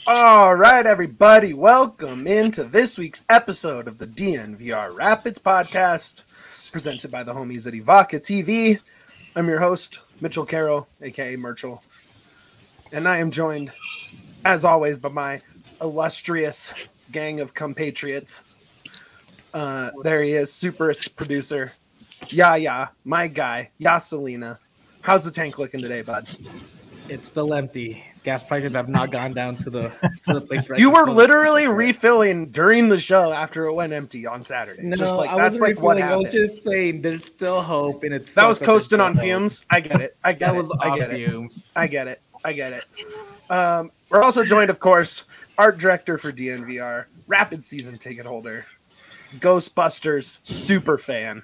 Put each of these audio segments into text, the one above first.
All right, everybody, welcome into this week's episode of the DNVR Rapids podcast, presented by the homies at Evoca TV. I'm your host, Mitchell Carroll, aka Merchel, and I am joined, as always, by my illustrious gang of compatriots. There he is, super producer, my guy, Yaselina. How's the tank looking today, bud? It's still empty. Gas prices have not gone down to the place right. You were literally refilling during the show after it went empty on Saturday. No, just like, I that's wasn't like what refilling. I happened. was just saying there's still hope, and it's That was coasting on fumes. I get it. I get That it. was I off get it. fumes. I get it. I get it. We're also joined, of course, art director for DNVR, Rapid season ticket holder, Ghostbusters super fan,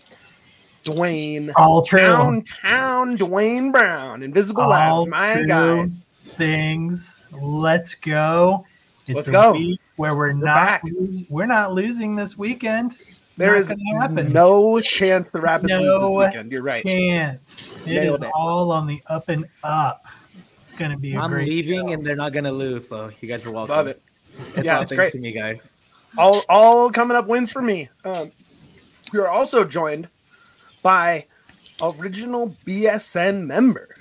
Dwayne. All true. Downtown Dwayne Brown, Invisible Labs, my guy. Things. Let's go. It's Let's go. Week where we're back. not losing this weekend. There is no chance the Rapids lose this weekend. You're right. Chance. It Nailed is it. all on the up and up. It's going to be a I'm great leaving, show. and they're not gonna lose. So you guys are welcome. Love it. It's Yeah, all it's thanks great. to me, guys. All coming up wins for me. We are also joined by original BSN member,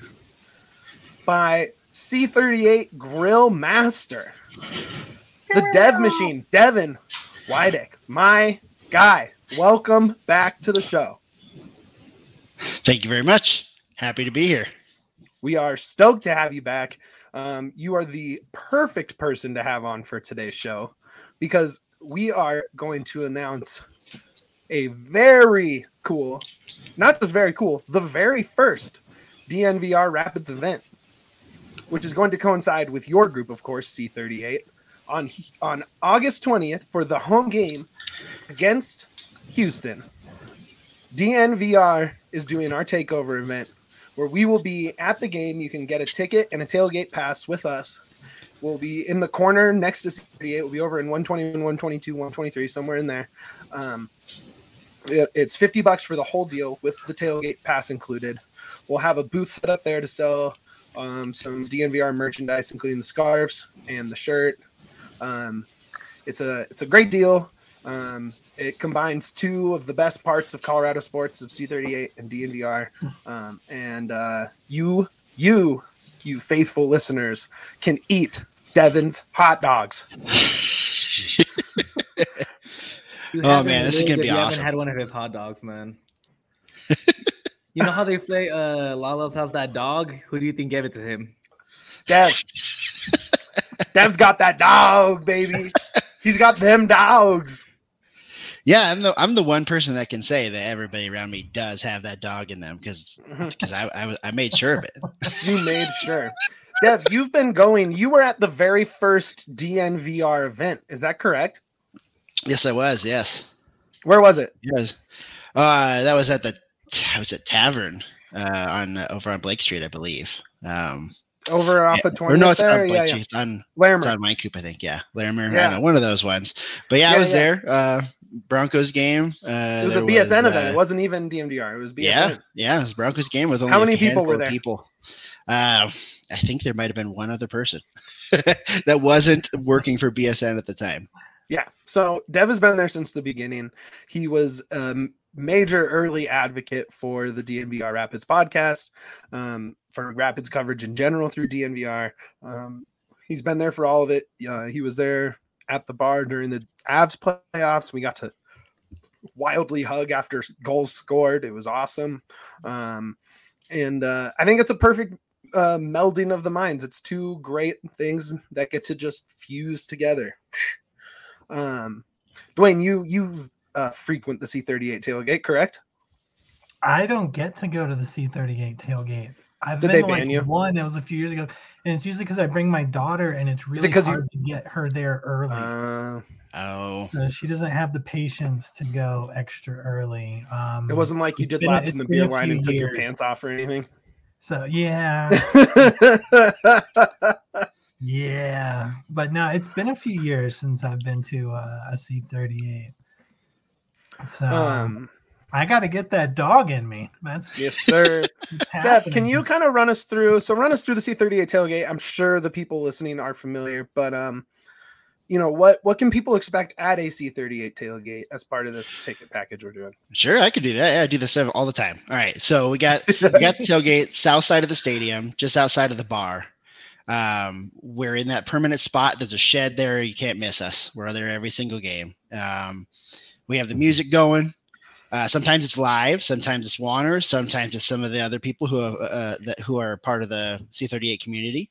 by C38 Grill Master, the Dev Machine, Devin Wydick, my guy. Welcome back to the show. Thank you very much. Happy to be here. We are stoked to have you back. You are the perfect person to have on for today's show because we are going to announce a very cool, not just very cool, the very first DNVR Rapids event, which is going to coincide with your group, of course, C38, on August 20th for the home game against Houston. DNVR is doing our takeover event where we will be at the game. You can get a ticket and a tailgate pass with us. We'll be in the corner next to C38. We'll be over in 121, 122, 123, somewhere in there. It's $50 for the whole deal with the tailgate pass included. We'll have a booth set up there to sell some DNVR merchandise, including the scarves and the shirt. It's a great deal. It combines two of the best parts of Colorado sports, of C38 and DNVR. And you faithful listeners can eat Devin's hot dogs. Oh, man, this is going to be You awesome. haven't had one of his hot dogs, man. You know how they say Lalo's has that dog? Who do you think gave it to him? Dev. Dev's got that dog, baby. He's got them dogs. Yeah, I'm the one person that can say that everybody around me does have that dog in them because I made sure of it. You made sure. Dev, you've been going. You were at the very first DNVR event. Is that correct? Yes, I was. Yes. Where was it? Yes. That was at the tavern over on Blake Street, I believe. Over off of 20th Or no, it's there? on Blake Yeah. Street. It's on Larimer. Mine Coop, I think. Yeah, Larimer. Yeah. I know, one of those ones. But yeah, I was there. Broncos game. It was a BSN event. It wasn't even DNVR. It was BSN. Yeah, it was Broncos game with only How many a people were handful of there? people. I think there might have been one other person that wasn't working for BSN at the time. Yeah. So Dev has been there since the beginning. He was a major early advocate for the DNVR Rapids podcast, for Rapids coverage in general through DNVR. He's been there for all of it. He was there at the bar during the Avs playoffs. We got to wildly hug after goals scored. It was awesome. And I think it's a perfect melding of the minds. It's two great things that get to just fuse together. Dwayne, you frequent the C38 tailgate, correct? I don't get to go to the C38 tailgate. I've Did been they to, ban you? one. It was a few years ago, and it's usually because I bring my daughter, and it's really 'cause hard to get her there early. Oh, So she doesn't have the patience to go extra early. It wasn't like you it's did been- laps it's in the been beer a line few and took your years. pants off or anything. So yeah, yeah. But no, it's been a few years since I've been to a C38. So I got to get that dog in me. That's Yes, sir. Deb, happening. can you kind of run us through the C38 tailgate? I'm sure the people listening are familiar, but what can people expect at a C38 tailgate as part of this ticket package we're doing? Sure, I could do that. Yeah, I do this all the time. All right, so we got the tailgate south side of the stadium, just outside of the bar. We're in that permanent spot. There's a shed there. You can't miss us. We're there every single game. We have the music going. Sometimes it's live. Sometimes it's Warner. Sometimes it's some of the other people who are part of the C38 community.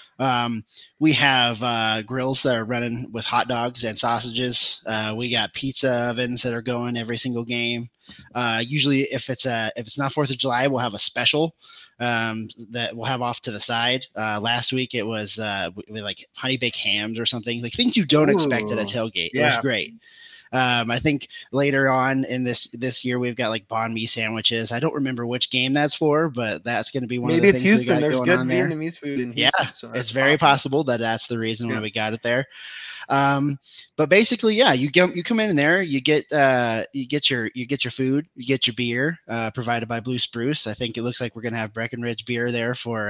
We have grills that are running with hot dogs and sausages. We got pizza ovens that are going every single game. Usually, if it's not 4th of July, we'll have a special that we'll have off to the side. Last week it was with like honey baked hams or something, like things you don't expect at a tailgate. Yeah. It was great. I think later on in this year we've got like banh mi sandwiches. I don't remember which game that's for, but that's going to be one of the things Houston. we got There's going good on there. Vietnamese food in Houston. Yeah, so it's very possible that's the reason why we got it there. But basically, yeah, you come in there, you get your food, you get your beer, provided by Blue Spruce. I think it looks like we're gonna have Breckenridge beer there for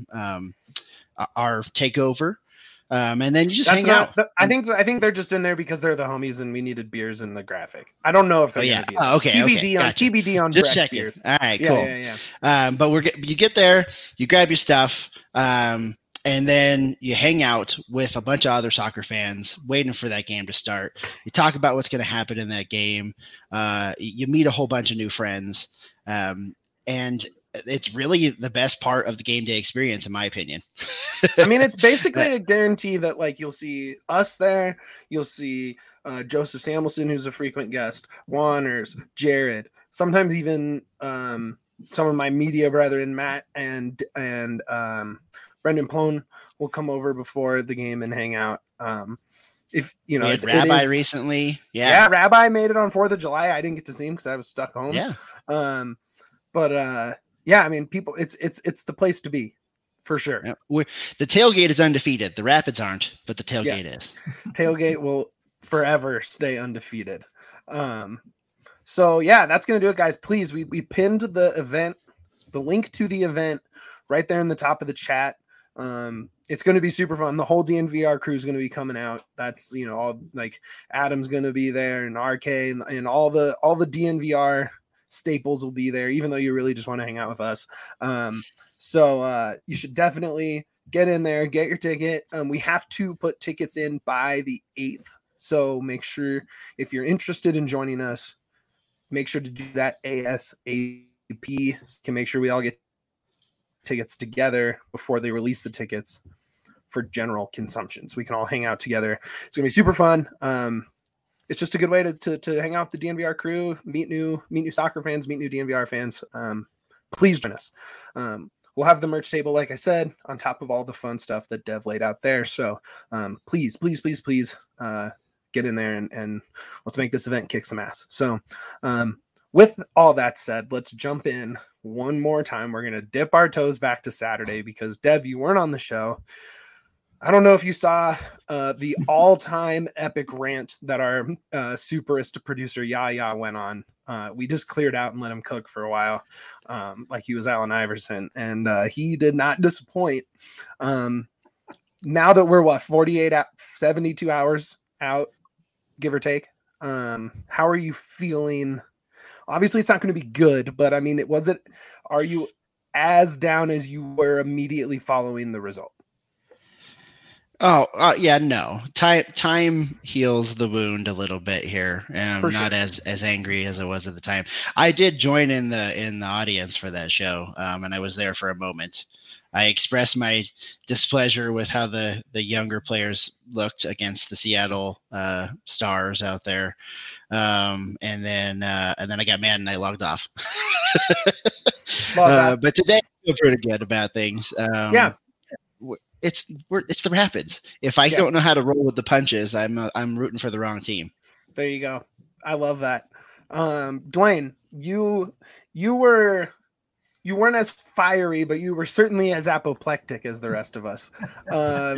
our takeover. And then you just hang out. I think they're just in there because they're the homies and we needed beers in the graphic. I don't know if they're gonna be okay. TBD Gotcha. TBD on just Breck checking. beers. All right, cool. Yeah. But you get there, you grab your stuff, and then you hang out with a bunch of other soccer fans waiting for that game to start. You talk about what's going to happen in that game. You meet a whole bunch of new friends, and it's really the best part of the game day experience, in my opinion. I mean, it's basically a guarantee that like you'll see us there. You'll see Joseph Samuelson, who's a frequent guest, Wanners, Jared, sometimes even some of my media brethren, Matt and Brendan Plone will come over before the game and hang out. If you know, we had Rabbi recently. Yeah, Rabbi made it on 4th of July. I didn't get to see him because I was stuck home. Yeah. Yeah, I mean, people, it's the place to be, for sure. Yeah. The tailgate is undefeated. The Rapids aren't, but the tailgate is. Tailgate will forever stay undefeated. So yeah, that's gonna do it, guys. Please, we pinned the link to the event right there in the top of the chat. It's going to be super fun. The whole DNVR crew is going to be coming out. That's, all like Adam's going to be there and RK and all the DNVR staples will be there, even though you really just want to hang out with us. So you should definitely get in there, get your ticket. We have to put tickets in by the 8th. So make sure if you're interested in joining us, make sure to do that ASAP. Can make sure we all get tickets together before they release the tickets for general consumption, so we can all hang out together. It's gonna be super fun. It's just a good way to hang out with the DNVR crew, meet new soccer fans, meet new DNVR fans. Please join us. We'll have the merch table, like I said, on top of all the fun stuff that Dev laid out there. So please get in there and let's make this event kick some ass. So with all that said, let's jump in one more time. We're going to dip our toes back to Saturday because, Dev, you weren't on the show. I don't know if you saw the all-time epic rant that our superist producer Yaya went on. We just cleared out and let him cook for a while, like he was Allen Iverson, and he did not disappoint. Now that we're 72 hours out, give or take, how are you feeling? Obviously, it's not going to be good, but I mean, are you as down as you were immediately following the result? Oh, yeah, no. Time heals the wound a little bit here, and I'm not as angry as I was at the time. I did join in the audience for that show, and I was there for a moment. I expressed my displeasure with how the younger players looked against the Seattle Stars out there. And then I got mad and I logged off. But today I feel pretty good about things. Yeah, it's the Rapids. If I don't know how to roll with the punches, I'm rooting for the wrong team. There you go. I love that. Dwayne, you weren't as fiery, but you were certainly as apoplectic as the rest of us. Are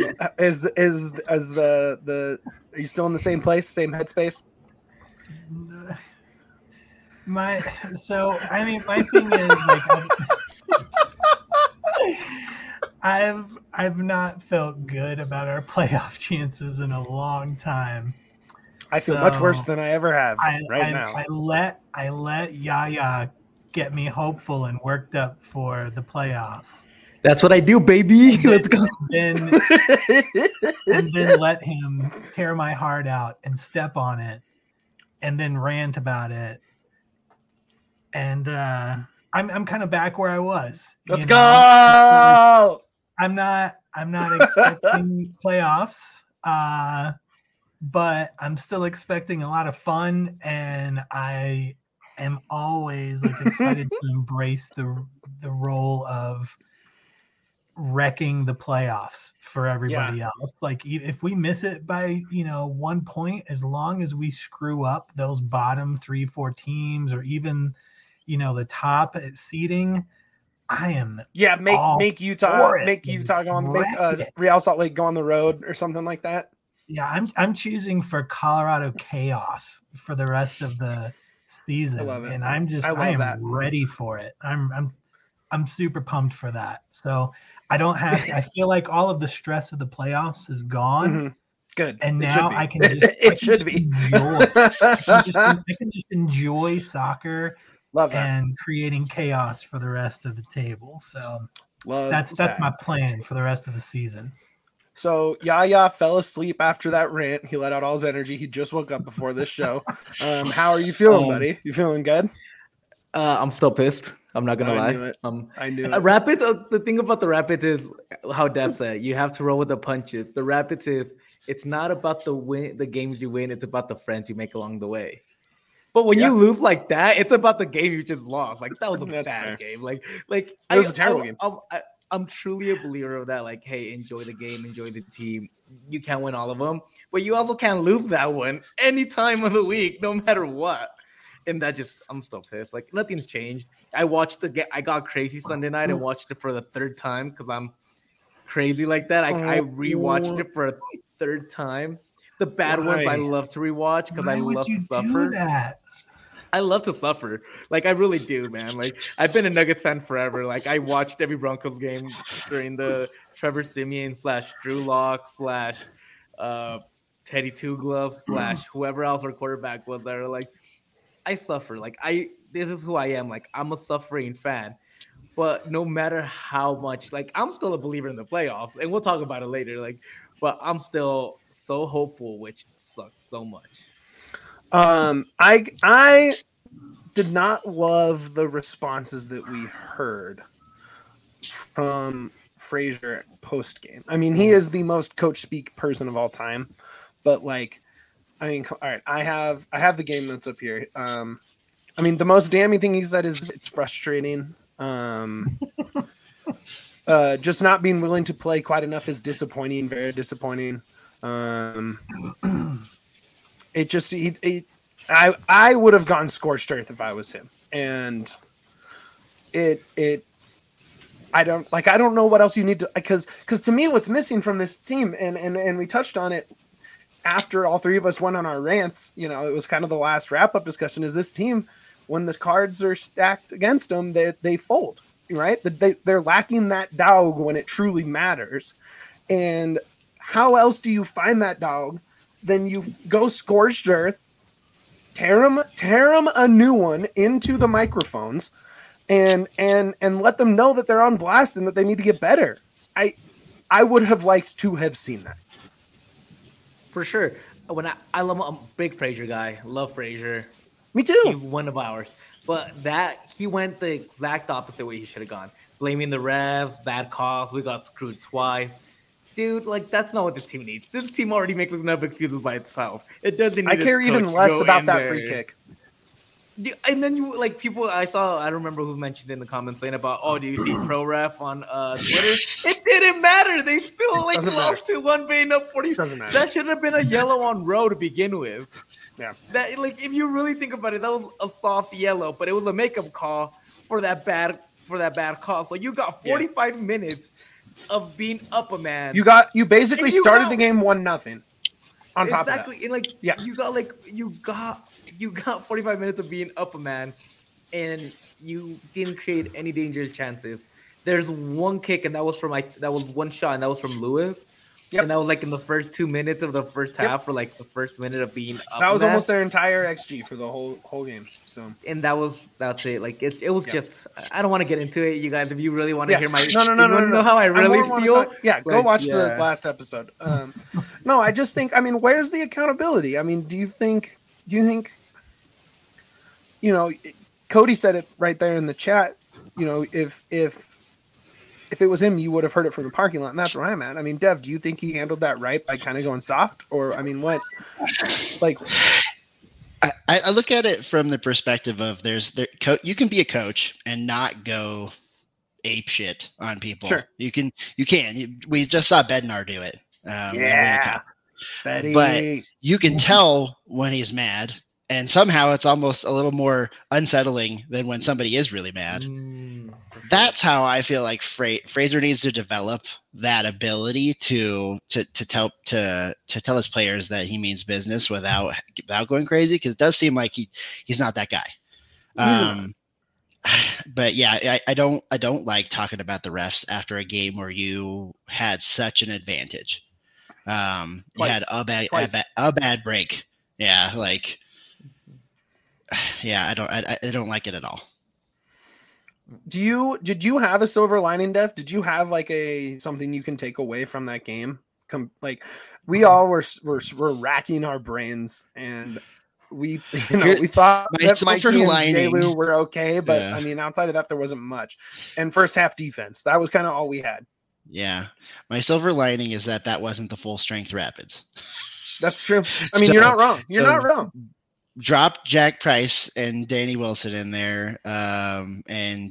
you still in the same place, same headspace? My thing is like I've not felt good about our playoff chances in a long time. I feel much worse than I ever have now. I let Yaya get me hopeful and worked up for the playoffs. That's what I do, baby. Let's go. And then let him tear my heart out and step on it, and then rant about it. And I'm kind of back where I was. Let's go. I'm not expecting playoffs, but I'm still expecting a lot of fun, and I am always like excited to embrace the role of wrecking the playoffs for everybody else. Like if we miss it by 1 point, as long as we screw up those bottom 3-4 teams, or even the top seeding, I am make Utah on Real Salt Lake go on the road or something like that. I'm choosing for Colorado chaos for the rest of the season. I love it. And I am ready for it. I'm super pumped for that. So I don't have to, I feel like all of the stress of the playoffs is gone. Mm-hmm. Good. And now I can just I can just enjoy soccer. Love that. And creating chaos for the rest of the table. So that's my plan for the rest of the season. So Yaya fell asleep after that rant. He let out all his energy. He just woke up before this show. How are you feeling, buddy? You feeling good? I'm still pissed. I'm not gonna lie. I knew it. Rapids. The thing about the Rapids is how Dev said. You have to roll with the punches. The Rapids it's not about the games you win. It's about the friends you make along the way. But when you lose like that, it's about the game you just lost. Like that was a bad game. Like it was a terrible game. I'm truly a believer of that. Like, hey, enjoy the game, enjoy the team. You can't win all of them, but you also can't lose that one any time of the week, no matter what. And I'm still pissed. Like nothing's changed. I got crazy Sunday night and watched it for the third time because I'm crazy like that. I rewatched it for a third time. The bad ones I love to rewatch because I love to suffer. I love to suffer. Like I really do, man. Like I've been a Nuggets fan forever. Like I watched every Broncos game during the Trevor Siemian / Drew Lock / Teddy Two Gloves / whoever else our quarterback was there. Like I suffer. Like this is who I am. Like I'm a suffering fan. But no matter how much, like I'm still a believer in the playoffs, and we'll talk about it later. Like, but I'm still so hopeful, which sucks so much. I did not love the responses that we heard from Frazier post game. I mean, he is the most coach speak person of all time, but like, I mean, all right, I have the game notes up here. I mean, the most damning thing he said is it's frustrating. Just not being willing to play quite enough is disappointing, very disappointing. It just I would have gone scorched earth if I was him, and I don't know what else you need to, because to me what's missing from this team, and we touched on it after all three of us went on our rants. It was kind of the last wrap up discussion. Is this team, when the cards are stacked against them, they fold, right? They're lacking that dog when it truly matters. And how else do you find that dog? Then you go scorched earth, tear them a new one into the microphones, and let them know that they're on blast and that they need to get better. I would have liked to have seen that. For sure. I'm a big Frazier guy. Love Frazier. Me too. He's one of ours. But he went the exact opposite way he should have gone. Blaming the refs, bad calls. We got screwed twice. Dude, like, that's not what this team needs. This team already makes enough excuses by itself. It doesn't need I care even less about that free kick. And then I don't remember who mentioned in the comments saying about, do you see pro ref on Twitter? It didn't matter. They still lost to 1 being up 40. That should have been a yellow on row to begin with. Yeah. That, if you really think about it, that was a soft yellow, but it was a makeup call for that bad call. So you got 45 minutes of being up a man. You basically started the game 1-0. On top of that. exactly. And you got you got 45 minutes of being up a man, and you didn't create any dangerous chances. There's one kick, and that was one shot, and that was from Lewis. Yep. And that was like in the first 2 minutes of the first half, for like the first minute of being up. That was a man. almost their entire XG for the whole game. So And that's it. Like it was Yep. just. I don't want to get into it, you guys. If you really want to hear my, no. know how I really wanna feel. talk- yeah, go like, watch yeah. the last episode. No, I just think. I mean, where's the accountability? I mean, do you think? You know, Cody said it right there in the chat. You know, if it was him, you would have heard it from the parking lot, and that's where I'm at. I mean, Dev, do you think he handled that right by kind of going soft, or I mean, what? Like, I look at it from the perspective of you can be a coach and not go ape shit on people. Sure. You can. We just saw Bednar do it. yeah, Betty. But you can tell when he's mad, and somehow it's almost a little more unsettling than when somebody is really mad. That's how I feel like Fraser needs to develop that ability to tell his players that he means business without going crazy, because it does seem like he's not that guy. But yeah, I don't like talking about the refs after a game where you had such an advantage. You had a bad break. Yeah, like yeah, I don't like it at all. Did you have a silver lining, Dev? Did you have like something you can take away from that game? Like we all were racking our brains, and we thought that Mikey and J-Lou were okay, but I mean, outside of that, there wasn't much. And first half defense, that was kind of all we had. Yeah, my silver lining is that wasn't the full strength Rapids. That's true. I mean, you're not wrong. You're not wrong. Drop Jack Price and Danny Wilson in there, and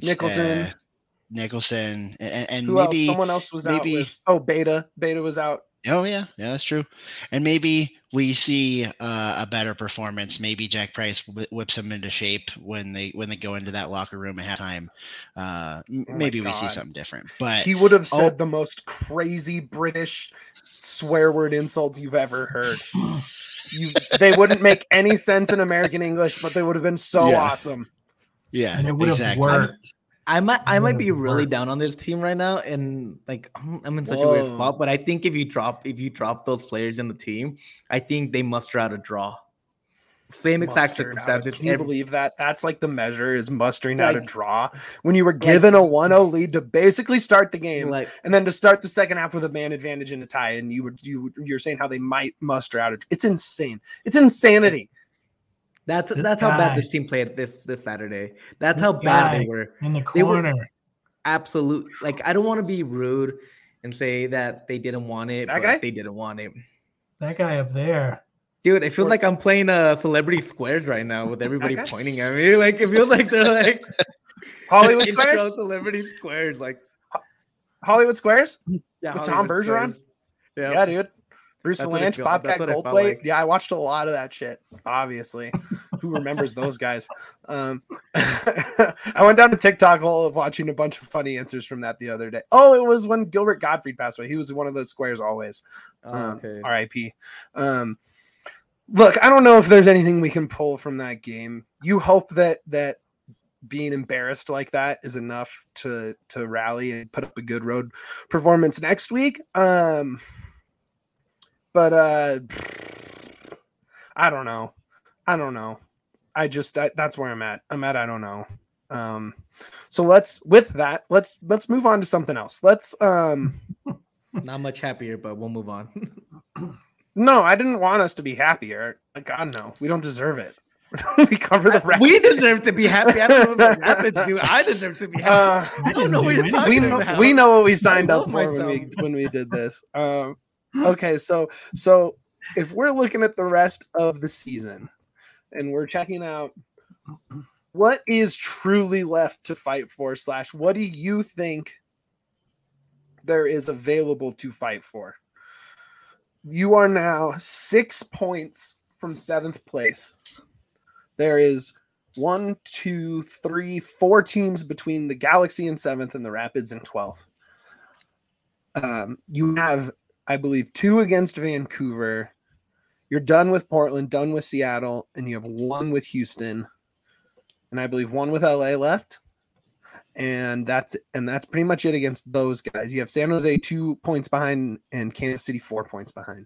Nicholson, and who maybe else? Someone else was out. Beta was out. Oh yeah, that's true. And maybe we see a better performance. Maybe Jack Price whips them into shape when they go into that locker room at halftime. Maybe we see something different. But he would have said the most crazy British swear word insults you've ever heard. They wouldn't make any sense in American English, but they would have been so awesome. Yeah, and it would have worked. I might be really down on this team right now, and like I'm in such a weird spot. But I think if you drop those players in the team, I think they muster out a draw. Same exact circumstances. Can you believe that? That's like the measure is mustering out a draw. When you were given a 1-0 lead to basically start the game, and then to start the second half with a man advantage in a tie, and you're saying how they might muster out. It's insane. It's insanity. That's how bad this team played this Saturday. That's how bad they were in the corner. Absolute. Like, I don't want to be rude and say that they didn't want it, but they didn't want it. That guy up there. Dude, it feels like I'm playing Celebrity Squares right now with everybody pointing at me. Like, it feels like they're like Hollywood Squares? Celebrity Squares. Like Hollywood Squares? Yeah, with Tom Bergeron? Yeah, dude. Bruce Valanche, Bobcat Goldthwait. Like. Yeah, I watched a lot of that shit, obviously. Who remembers those guys? I went down to TikTok hole of watching a bunch of funny answers from that the other day. Oh, it was when Gilbert Gottfried passed away. He was one of those squares always. R.I.P. Look, I don't know if there's anything we can pull from that game. You hope that being embarrassed like that is enough to rally and put up a good road performance next week. But I don't know. That's where I'm at. I don't know. So let's move on to something else. Not much happier, but we'll move on. No, I didn't want us to be happier. God, no, we don't deserve it. We cover the Rapids. We deserve to be happy. I don't know what the Rapids do. I deserve to be happy. I don't know what you're talking about. We know what we signed up for when we did this. Okay, so if we're looking at the rest of the season and we're checking out what is truly left to fight for / what do you think there is available to fight for? You are now 6 points from 7th place. There is 4 teams between the Galaxy in 7th and the Rapids in 12th. You have, I believe, 2 against Vancouver. You're done with Portland, done with Seattle, and you have one with Houston, and I believe one with LA left. And that's pretty much it against those guys. You have San Jose 2 points behind and Kansas City 4 points behind.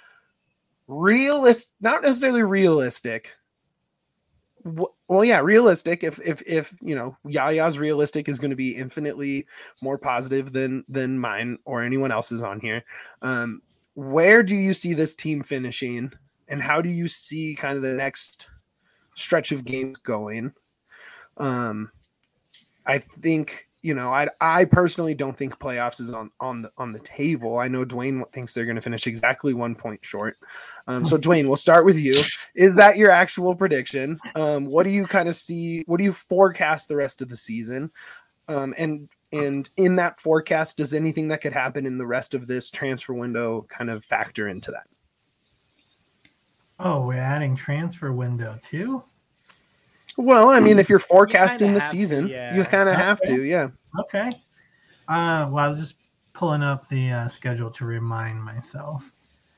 Not necessarily realistic. Well, yeah, realistic. If Yaya's realistic is going to be infinitely more positive than mine or anyone else's on here. Where do you see this team finishing, and how do you see kind of the next stretch of games going? I think, I personally don't think playoffs is on the table. I know Dwayne thinks they're going to finish exactly 1 point short. So Dwayne, we'll start with you. Is that your actual prediction? What do you kind of see? What do you forecast the rest of the season? And in that forecast, does anything that could happen in the rest of this transfer window kind of factor into that? Oh, we're adding transfer window too? Well, I mean, if you're forecasting the have to, season, yeah. you kind of have to, yeah. Okay. Well, I was just pulling up the schedule to remind myself.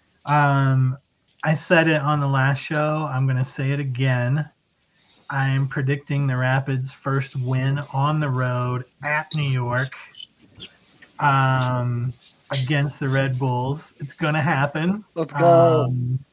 I said it on the last show. I'm going to say it again. I am predicting the Rapids' first win on the road at New York against the Red Bulls. It's going to happen. Let's go.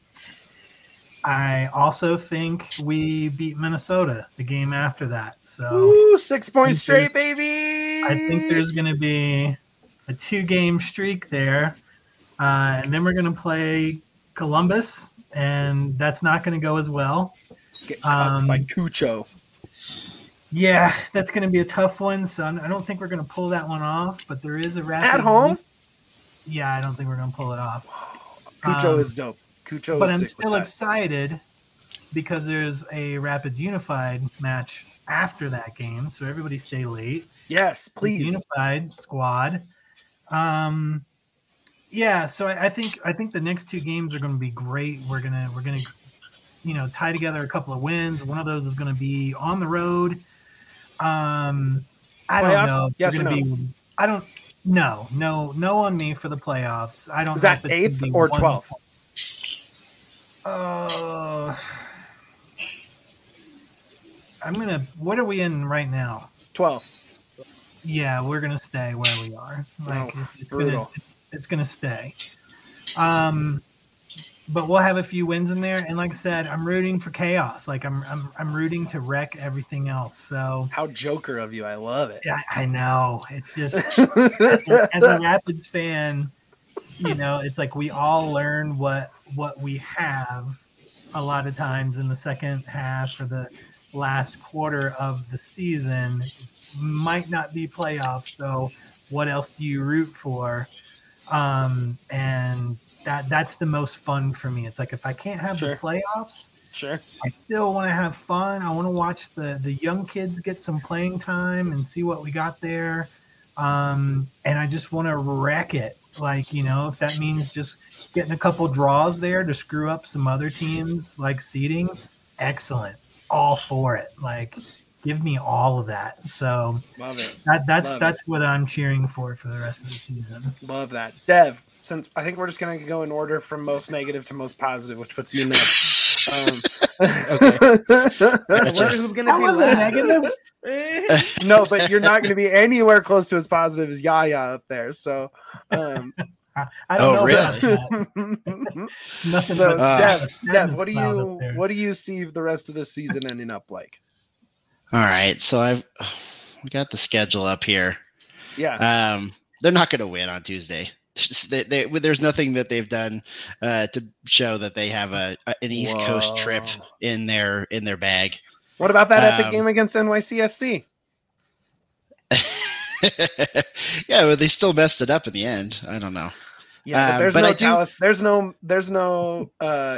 I also think we beat Minnesota the game after that. So Ooh, 6 points straight, baby. I think there's going to be a 2-game streak there. And then we're going to play Columbus, and that's not going to go as well. Get caught by Cucho. Yeah, that's going to be a tough one. So I don't think we're going to pull that one off, but there is a Rapids At home? Yeah, I don't think we're going to pull it off. Cucho is dope. Cucho But is I'm sick still with that. excited because there's a Rapids Unified match after that game. So everybody stay late. Yes, please. Unified squad. Yeah, so I think the next 2 games are going to be great. We're gonna tie together a couple of wins. One of those is going to be on the road. I don't know. Yes or no? No on me for the playoffs. I don't. Is know that if it's 8th gonna or be 12th? What are we in right now? 12th. Yeah, we're gonna stay where we are. Like brutal. It's gonna stay. But we'll have a few wins in there, and like I said, I'm rooting for chaos. Like I'm rooting to wreck everything else. So How Joker of you. I love it. yeah, I know. It's just as a Rapids fan, it's like we all learn what we have a lot of times in the second half or the last quarter of the season. It might not be playoffs, so what else do you root for? And that's the most fun for me. It's like if I can't have the playoffs, Sure. I still want to have fun. I want to watch the young kids get some playing time and see what we got there. And I just want to wreck it. Like, if that means just getting a couple draws there to screw up some other teams like seeding, excellent. All for it. Like, give me all of that. So Love it. That's what I'm cheering for the rest of the season. Love that. Dev, since I think we're just going to go in order from most negative to most positive, which puts you next. Okay. Who's gonna That be was a last? negative. No, but you're not going to be anywhere close to as positive as Yaya up there. So, I don't Oh, know really? about that. It's nothing so but Dev, sadness what do cloud up there. you see the rest of the season ending up like? All right, so we got the schedule up here. Yeah. They're not going to win on Tuesday. There's nothing that they've done to show that they have an East Coast trip in their bag. What about that epic game against NYCFC? Yeah, but they still messed it up in the end. I don't know. Yeah, but there's no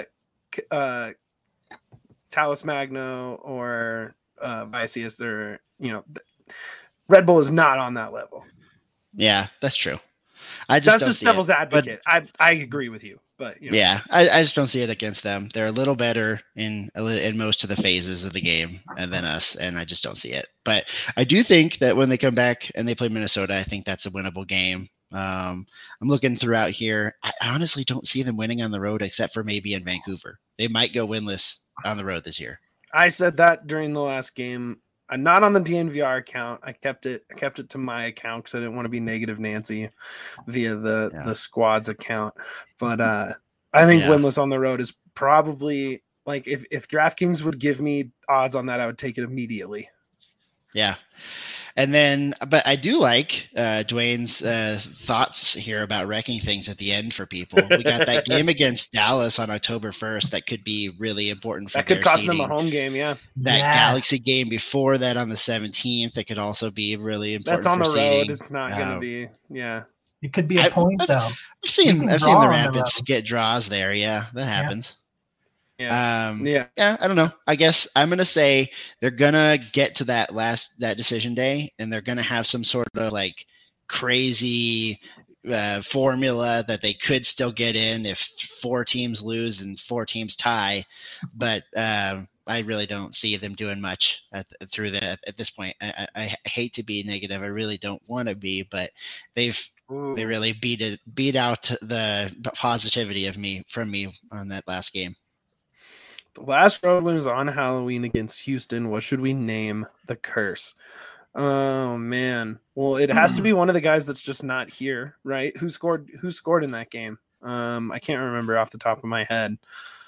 Talus Magno or Vicius or Red Bull is not on that level. Yeah, that's true. That's just devil's advocate. I agree with you, but yeah, I just don't see it against them. They're a little better in most of the phases of the game than us, and I just don't see it. But I do think that when they come back and they play Minnesota, I think that's a winnable game. I'm looking throughout here. I honestly don't see them winning on the road except for maybe in Vancouver. They might go winless on the road this year. I said that during the last game. Not on the DNVR account. I kept it to my account because I didn't want to be negative Nancy via the squad's account. But I think winless on the road is probably like if DraftKings would give me odds on that, I would take it immediately. Yeah. And then, but I do like Dwayne's thoughts here about wrecking things at the end for people. We got that game against Dallas on October 1st that could be really important for that could cost seeding. them a home game. Yeah, that Galaxy game before that on the 17th, that could also be really important. That's on for the seeding. road. It's not going to be. Yeah, it could be a point though. I've seen the Rapids get draws there. Yeah, that happens. Yeah. I don't know. I guess I'm gonna say they're gonna get to that decision day, and they're gonna have some sort of like crazy formula that they could still get in if 4 teams lose and 4 teams tie. But I really don't see them doing much at this point. I hate to be negative. I really don't want to be, but they really beat out the positivity from me on that last game. The last road win was on Halloween against Houston. What should we name the curse? Oh man. Well, it has to be one of the guys that's just not here, right? Who scored in that game? I can't remember off the top of my head.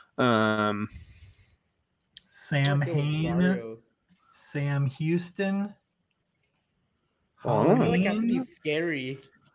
Sam Hain, Sam Houston. I feel like it has to be scary.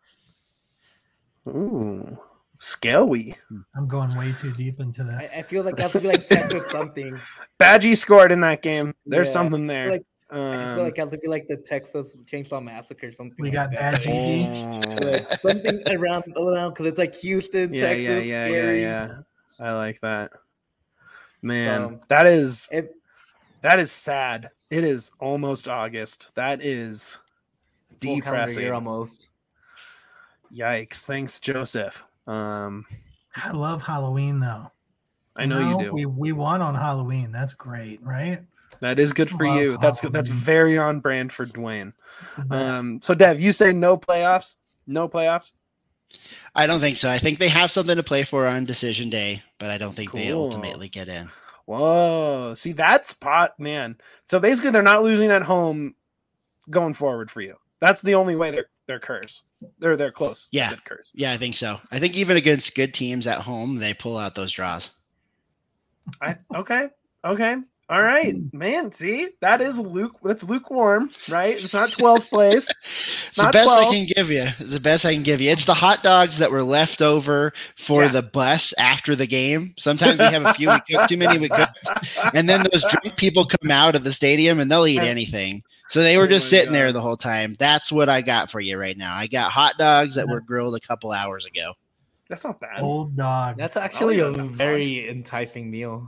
Ooh. Scary. I'm going way too deep into this. I feel like that would be like Texas something. Badgie scored in that game. There's something there. I feel like it has to be like the Texas Chainsaw Massacre or something. We got Badgie. Like something around because it's like Houston, Texas. Yeah. I like that. Man, that is sad. It is almost August. That is depressing. Year almost. Yikes. Thanks, Joseph. I love Halloween though. I know you do. We won on Halloween. That's great, right? That is good for you. That's very on brand for Dwayne. So Dev, you say no playoffs? No playoffs? I don't think so. I think they have something to play for on decision day, but I don't think they ultimately get in. Whoa. See, that's man. So basically they're not losing at home going forward for you. That's the only way they're cursed. They're close. Yeah. Curse. Yeah, I think so. I think even against good teams at home, they pull out those draws. Okay. All right, man. See, that's lukewarm, right? It's not 12th place. It's the best 12. I can give you. It's the best I can give you. It's the hot dogs that were left over for the bus after the game. Sometimes we have a few. We cook too many. We cooked, and then those drunk people come out of the stadium and they'll eat anything. So they were just sitting there the whole time. That's what I got for you right now. I got hot dogs that were grilled a couple hours ago. That's not bad. Old dogs. That's actually a very enticing meal.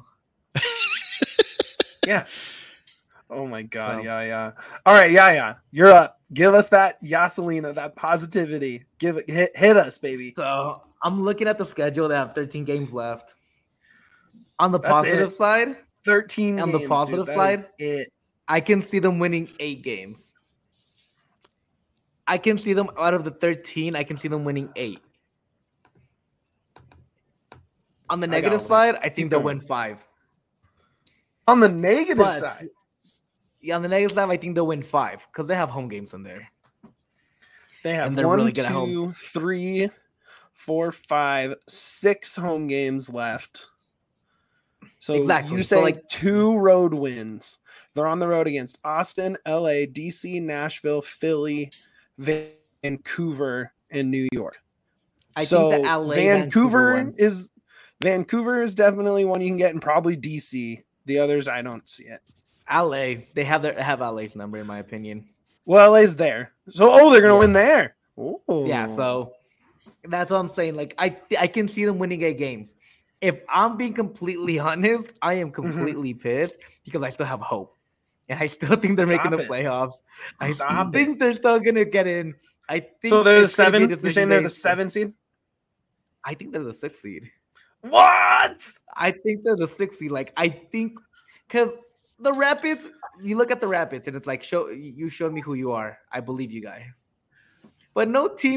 Yeah. Oh my God. Yeah. All right. Yeah. You're up. Give us that Yaselina, that positivity. Hit us, baby. So I'm looking at the schedule. They have 13 games left. On the positive side, 13. On the positive side, I can see them winning 8 games. I can see them out of the 13. I can see them winning 8. On the negative side, I think they'll win 5. On the negative side? Yeah, on the negative side, I think they'll win 5 because they have home games in there. They have 1, 2, 3, 4, 5, 6 home games left. So you say like 2 road wins. They're on the road against Austin, LA, DC, Nashville, Philly, Vancouver, and New York. I think that LA, Vancouver is definitely one you can get, and probably DC. The others, I don't see it. LA, they have LA's number, in my opinion. Well, LA's there, so they're gonna win there. Ooh. Yeah, so that's what I'm saying. Like I can see them winning 8 games. If I'm being completely honest, I am completely pissed because I still have hope, and I still think they're making the playoffs. I think they're still gonna get in. I think so. They're the 7. You're saying they're the 7 seed? I think they're the 6 seed. What? I think they're the 6th seed. Like I think because the Rapids, you look at the Rapids and it's like you showed me who you are. I believe you guys. But no team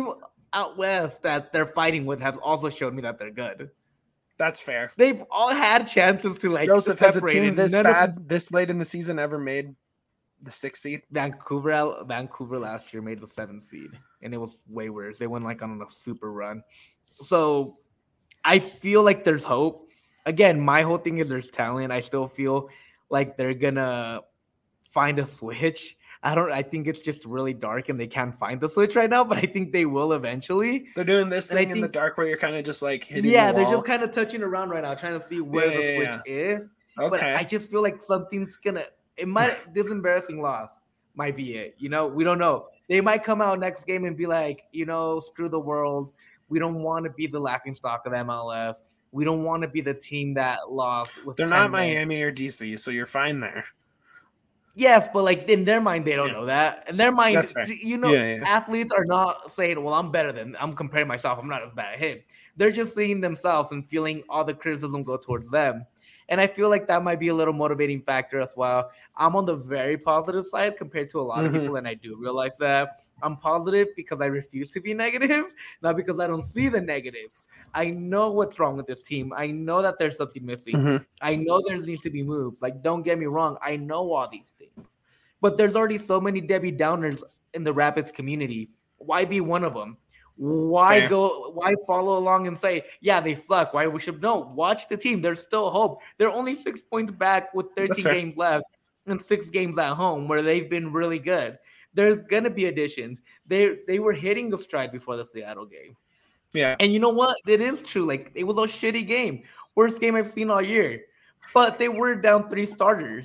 out west that they're fighting with have also shown me that they're good. That's fair. They've all had chances to like Joseph, has a separate. team and this none of bad this late in the season ever made the 6th seed? Vancouver last year made the 7th seed, and it was way worse. They went like on a super run. So I feel like there's hope. Again, my whole thing is there's talent. I still feel like they're gonna find a switch. I think it's just really dark and they can't find the switch right now, but I think they will eventually. They're doing this And I thing in the think- dark where you're kind of just like hitting Yeah, the they're wall. just kind of touching around right now, trying to see where Yeah, the yeah, switch is. But Okay. I just feel like something's gonna. It might. This embarrassing loss might be it. You know, we don't know. They might come out next game and be like, screw the world. We don't want to be the laughingstock of MLS. We don't want to be the team that lost. With They're 10 not men. Miami or DC, so you're fine there. Yes, but like in their mind, they don't Yeah. know that. In their mind, That's fair. Yeah. athletes are not saying, "Well, I'm comparing myself. I'm not as bad as him." They're just seeing themselves and feeling all the criticism go towards them. And I feel like that might be a little motivating factor as well. I'm on the very positive side compared to a lot of Mhm. people, and I do realize that I'm positive because I refuse to be negative, not because I don't see the negative. I know what's wrong with this team. I know that there's something missing. Mhm. I know there needs to be moves. Like, don't get me wrong. I know all these things. But there's already so many Debbie Downers in the Rapids community. Why be one of them? Why Fair. why follow along and say, yeah, they suck? Why we should no, watch the team. There's still hope. They're only 6 points back with 13 fair. games left and 6 games at home where they've been really good. There's gonna be additions. They were hitting the stride before the Seattle game. Yeah. And you know what? It is true. Like, it was a shitty game. Worst game I've seen all year. But they were down 3 starters.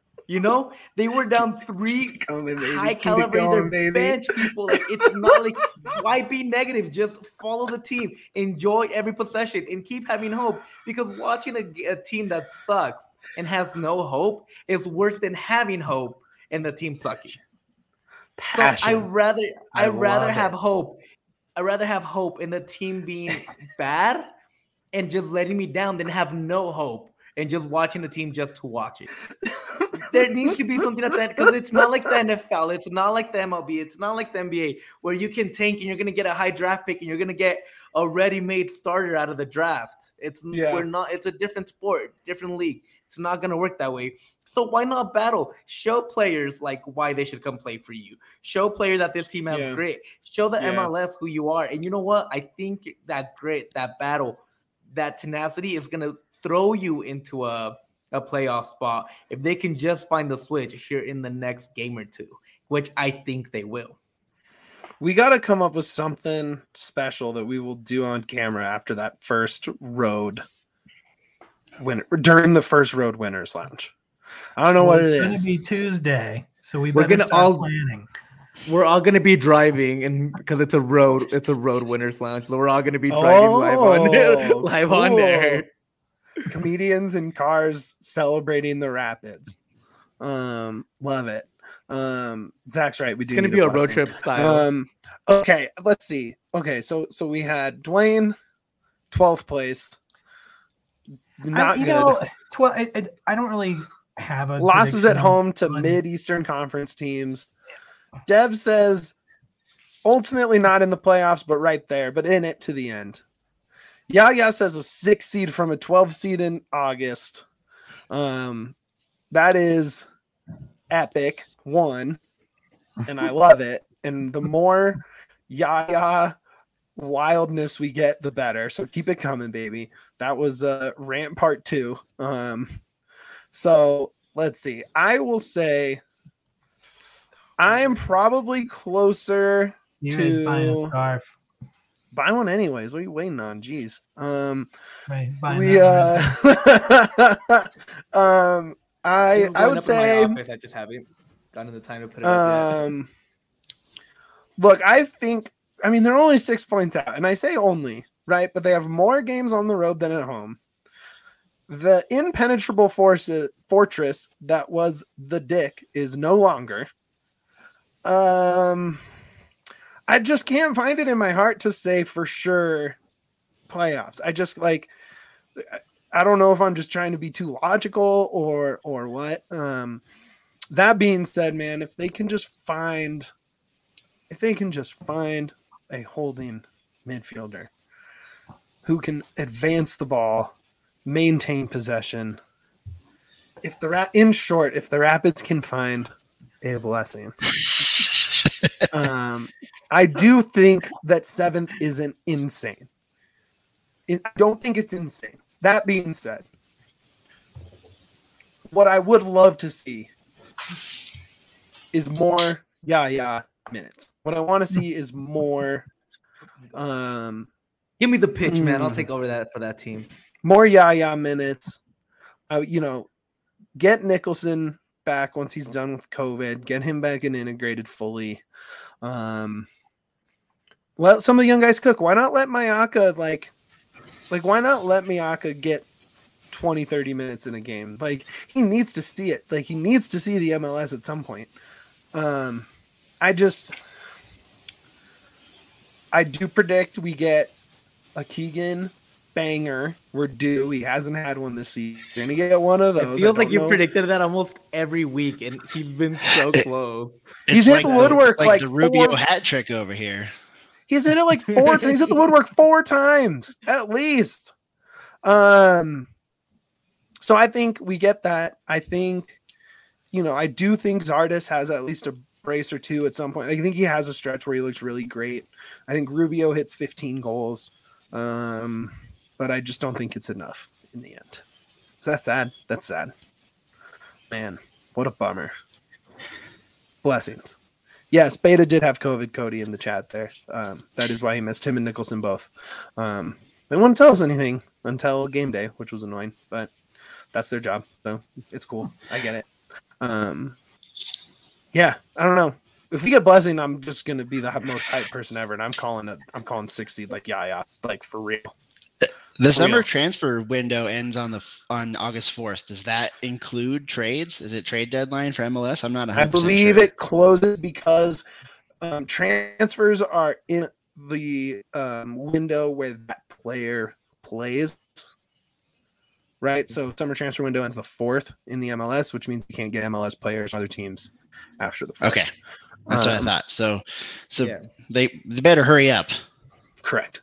They were down 3 Going, baby. high Keep it caliber going, baby. bench people. Like, it's not like, why be negative? Just follow the team, enjoy every possession, and keep having hope. Because watching a team that sucks and has no hope is worse than having hope and the team sucking. So Passion. I'd rather love have it. hope. I'd rather have hope in the team being bad and just letting me down than have no hope and just watching the team just to watch it. There needs to be something at the end because it's not like the NFL, it's not like the MLB, it's not like the NBA where you can tank and you're gonna get a high draft pick and you're gonna get a ready-made starter out of the draft. It's a different sport, different league. It's not gonna work that way. So why not battle? Show players like why they should come play for you. Show players that this team has Yeah. grit. Show the Yeah. MLS who you are. And you know what? I think that grit, that battle, that tenacity is gonna throw you into a playoff spot if they can just find the switch here in the next game or two, which I think they will. We got to come up with something special that we will do on camera after that first road during the first road winners lounge. I don't know what it It's going is. to be Tuesday, so We're better gonna start all- planning. We're all gonna be driving, and because it's a road winners lounge, so we're all gonna be driving live Oh, on cool. there. Comedians in cars celebrating the Rapids. Love it. Zach's right. We do It's gonna need be a road blessing. trip style. Okay, let's see. Okay, so we had Dwayne, 12th place. Not good. I don't really have a Losses at prediction home to on- mid-Eastern Conference teams. Dev says ultimately not in the playoffs, but right there, but in it to the end. Yaya says a 6 seed from a 12 seed in August. That is epic. One, and I love it. And the more Yaya wildness we get, the better. So keep it coming, baby. That was rant part 2. So let's see. I will say I am probably closer He's buying a to scarf. buy one anyways. What are you waiting on? Jeez. Right, he's buying We that one. I would say I just haven't gotten the time to put it up yet. look, I mean they're only 6 points out, and I say only, right? But they have more games on the road than at home. The impenetrable fortress that was the Dick is no longer. I just can't find it in my heart to say for sure playoffs. I just I don't know if I'm just trying to be too logical or what. That being said, man, if they can just find a holding midfielder who can advance the ball, maintain possession. If the Rapids can find a blessing, I do think that 7th isn't insane. I don't think it's insane. That being said, what I would love to see is more minutes. What I want to see is more. Give me the pitch, man. I'll take over that for that team. More minutes. Get Nicholson back once he's done with COVID. Get him back and integrated fully. Let some of the young guys cook. Why not let Mayaka why not let Miyaka get 20, 30 minutes in a game? Like, he needs to see it. Like, he needs to see the MLS at some point. I do predict we get a Keegan banger. We're due. He hasn't had one this season. We're gonna get one of those. It feels like you predicted that almost every week, and he's been so close. He's hit the woodwork like the Rubio hat trick over here. He's hit it like 4 times. He's hit the woodwork 4 times at least. So I think we get that. I think, I do think Zardes has at least a brace or 2 at some point. I think he has a stretch where he looks really great. I think Rubio hits 15 goals. But I just don't think it's enough in the end. Is that sad? That's sad. Man, what a bummer. Blessings. Yes, Beta did have COVID, Cody, in the chat there. That is why he missed him and Nicholson both. They wouldn't tell us anything until game day, which was annoying, but that's their job, so it's cool. I get it. Yeah, I don't know. If we get Blessing, I'm just going to be the most hyped person ever, and I'm calling 6 seed like like for real. The summer transfer window ends on August 4th. Does that include trades? Is it trade deadline for MLS? I'm not 100% I believe sure. It closes because transfers are in the window where that player plays. Right? So summer transfer window ends the 4th in the MLS, which means you can't get MLS players from other teams after the 4th. Okay. That's what I thought. So yeah. They better hurry up. Correct.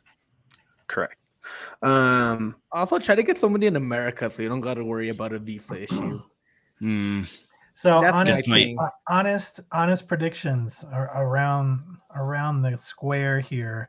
Also, try to get somebody in America so you don't got to worry about a visa issue. So honest predictions are around the square here.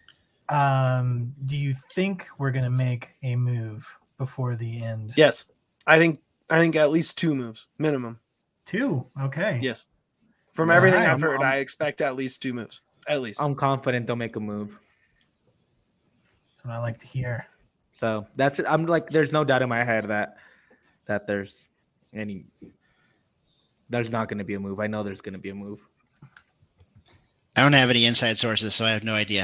Do you think we're going to make a move before the end? Yes, I think at least 2 moves minimum. 2, okay. Yes, from everything I've heard, I expect at least 2 moves. At least I'm confident they'll make a move. That's what I like to hear. So that's it. I'm like, there's no doubt in my head that there's not going to be a move. I know there's going to be a move. I don't have any inside sources, so I have no idea.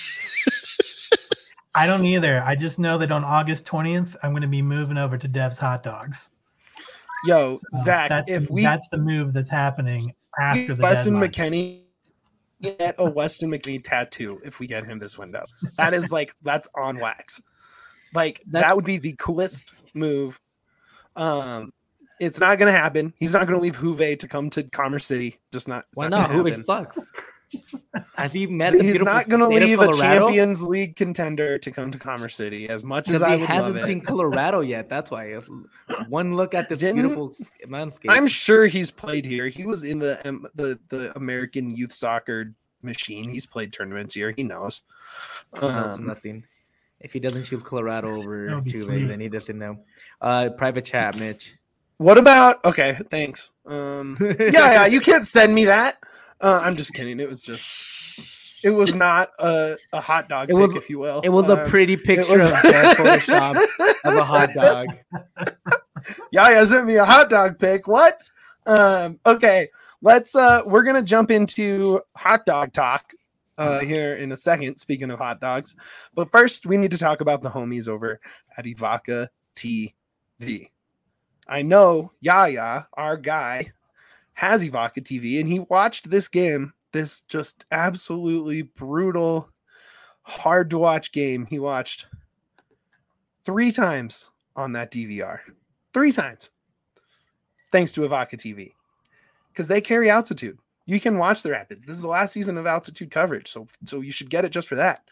I don't either. I just know that on August 20th, I'm going to be moving over to Dev's Hot Dogs. Yo, So Zach, that's the move that's happening after the Weston deadline. McKennie get a Weston McKennie tattoo if we get him this window. That is that's on wax. That would be the coolest move. It's not going to happen. He's not going to leave Juve to come to Commerce City. Just not. Why not? Juve sucks. Has he met? He's not going to leave a Champions League contender to come to Commerce City. As much as I would love it, he hasn't seen Colorado yet. That's why. One look at this beautiful landscape. I'm sure he's played here. He was in the American youth soccer machine. He's played tournaments here. He knows. Nothing. If he doesn't choose Colorado over Juve, sweet. then he doesn't know. Private chat, Mitch. What about? Okay, thanks. Yeah, you can't send me that. I'm just kidding. It was not a hot dog pic, if you will. It was a pretty picture of Photoshop of a hot dog. Yeah, sent me a hot dog pic. What? Okay, we're gonna jump into hot dog talk here in a second. Speaking of hot dogs, but first we need to talk about the homies over at Evoca TV. I know Yaya, our guy, has Evoca TV, and he watched this game, this just absolutely brutal, hard to watch game. He watched 3 times on that DVR. 3 times. Thanks to Evoca TV. Because they carry altitude. You can watch the Rapids. This is the last season of altitude coverage, so you should get it just for that.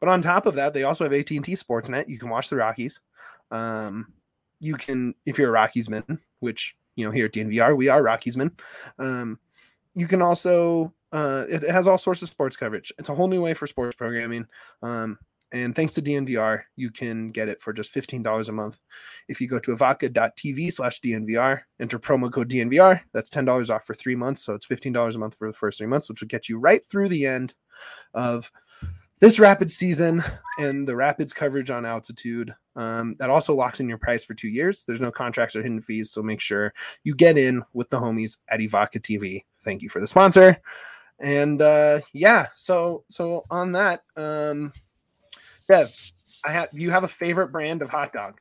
But on top of that, they also have AT&T Sportsnet. You can watch the Rockies. You can, if you're a Rockiesman, which, you know, here at DNVR, we are Rockiesmen. You can also, it has all sorts of sports coverage. It's a whole new way for sports programming. And thanks to DNVR, you can get it for just $15 a month. If you go to avaca.tv/DNVR, enter promo code DNVR, that's $10 off for 3 months. So it's $15 a month for the first 3 months, which will get you right through the end of this Rapids season and the Rapids coverage on Altitude. That also locks in your price for 2 years. There's no contracts or hidden fees, so make sure you get in with the homies at Evoca TV. Thank you for the sponsor. And so on that, Dev, you have a favorite brand of hot dog?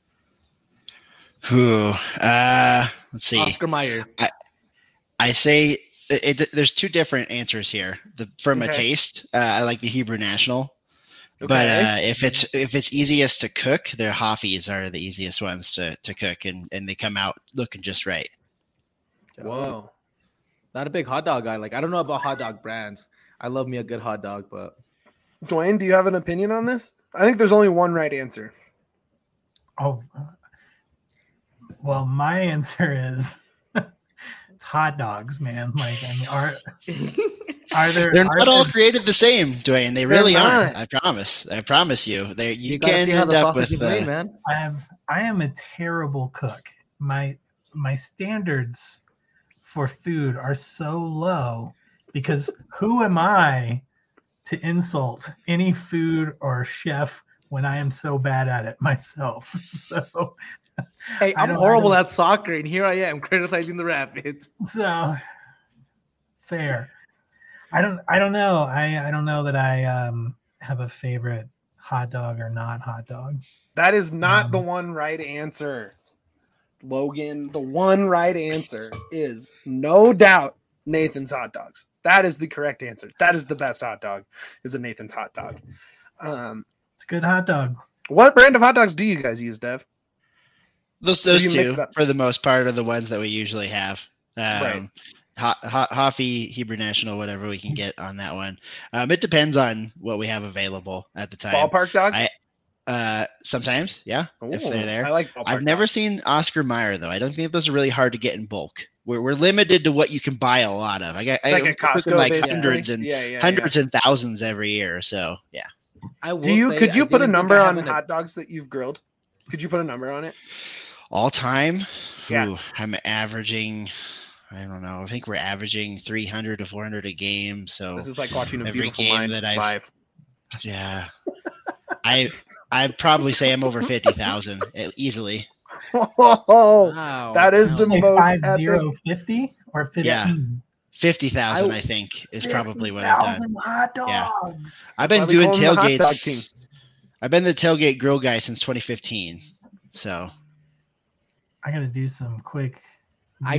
Let's see. Oscar Mayer. I say there's two different answers here. From a taste, I like the Hebrew National. Okay. But if it's easiest to cook, their Hoffies are the easiest ones to cook, and they come out looking just right. Whoa. Not a big hot dog guy. Like, I don't know about hot dog brands. I love me a good hot dog, but Dwayne, do you have an opinion on this? I think there's only one right answer. Oh, well, my answer is it's hot dogs, man. Like, I mean, are there? They're not all created the same, Dwayne. They really aren't. I promise you. You can end up with. Man. I am a terrible cook. My standards for food are so low because who am I to insult any food or chef when I am so bad at it myself? So, hey, I'm horrible at soccer, and here I am criticizing the Rapids. So fair. I don't know. I don't know that I have a favorite hot dog or not hot dog. That is not the one right answer, Logan. The one right answer is no doubt Nathan's hot dogs. That is the correct answer. That is the best hot dog, is a Nathan's hot dog. It's a good hot dog. What brand of hot dogs do you guys use, Dev? Those two, for the most part, are the ones that we usually have. Right. Hoffy, Hebrew National, whatever we can get on that one. It depends on what we have available at the time. Ballpark dogs? Sometimes, yeah, if they're there. I like ballpark I've never seen Oscar Mayer, though. I don't think those are really hard to get in bulk. We're limited to what you can buy a lot of. I like a Costco, like hundreds and thousands every year. So yeah. Could you put a number on hot dogs that you've grilled? Could you put a number on it? All time? Yeah. Ooh, I'm averaging, I don't know. I think we're averaging 300 to 400 a game. So this is like watching a every beautiful game mind that live. Yeah. I'd probably say I'm over 50,000 easily. Oh, wow. That is the most 50 or 15? Yeah. 50,000, I think, is probably what I've done. Hot dogs. Yeah. I've been doing tailgates. I've been the tailgate grill guy since 2015. So I got to do some quick. I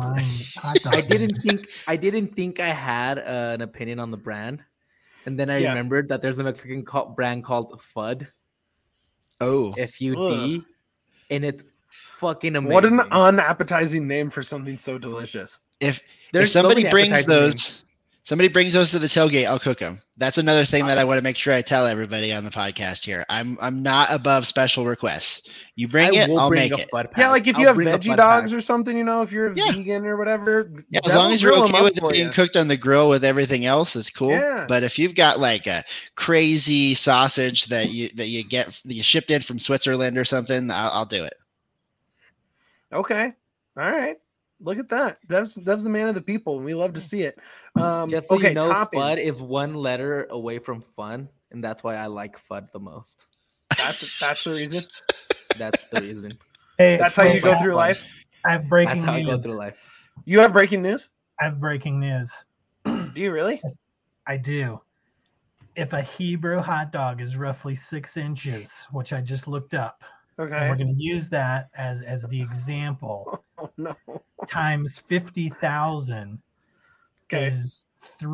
didn't think I had an opinion on the brand, and then I remembered that there's a Mexican brand called FUD. Oh, FUD, and it's fucking amazing. What an unappetizing name for something so delicious. If somebody brings those to the tailgate, I'll cook them. That's another thing that I want to make sure I tell everybody on the podcast here. I'm not above special requests. You bring it, I'll make it. Yeah, like if you have veggie dogs or something, if you're a vegan or whatever. Yeah, as long as you're okay with it being cooked on the grill with everything else, it's cool. Yeah. But if you've got like a crazy sausage that you shipped in from Switzerland or something, I'll do it. Okay. All right. Look at that. That's the man of the people, and we love to see it. Just so you know, FUD is one letter away from fun, and that's why I like FUD the most. That's the reason. That's the reason. Hey, that's how you go through life. I have breaking news. That's how I go through life. You have breaking news? I have breaking news. Do you really? I do. If a Hebrew hot dog is roughly 6 inches, which I just looked up, okay, and we're going to use that as the example. Oh no! Times 50,000 is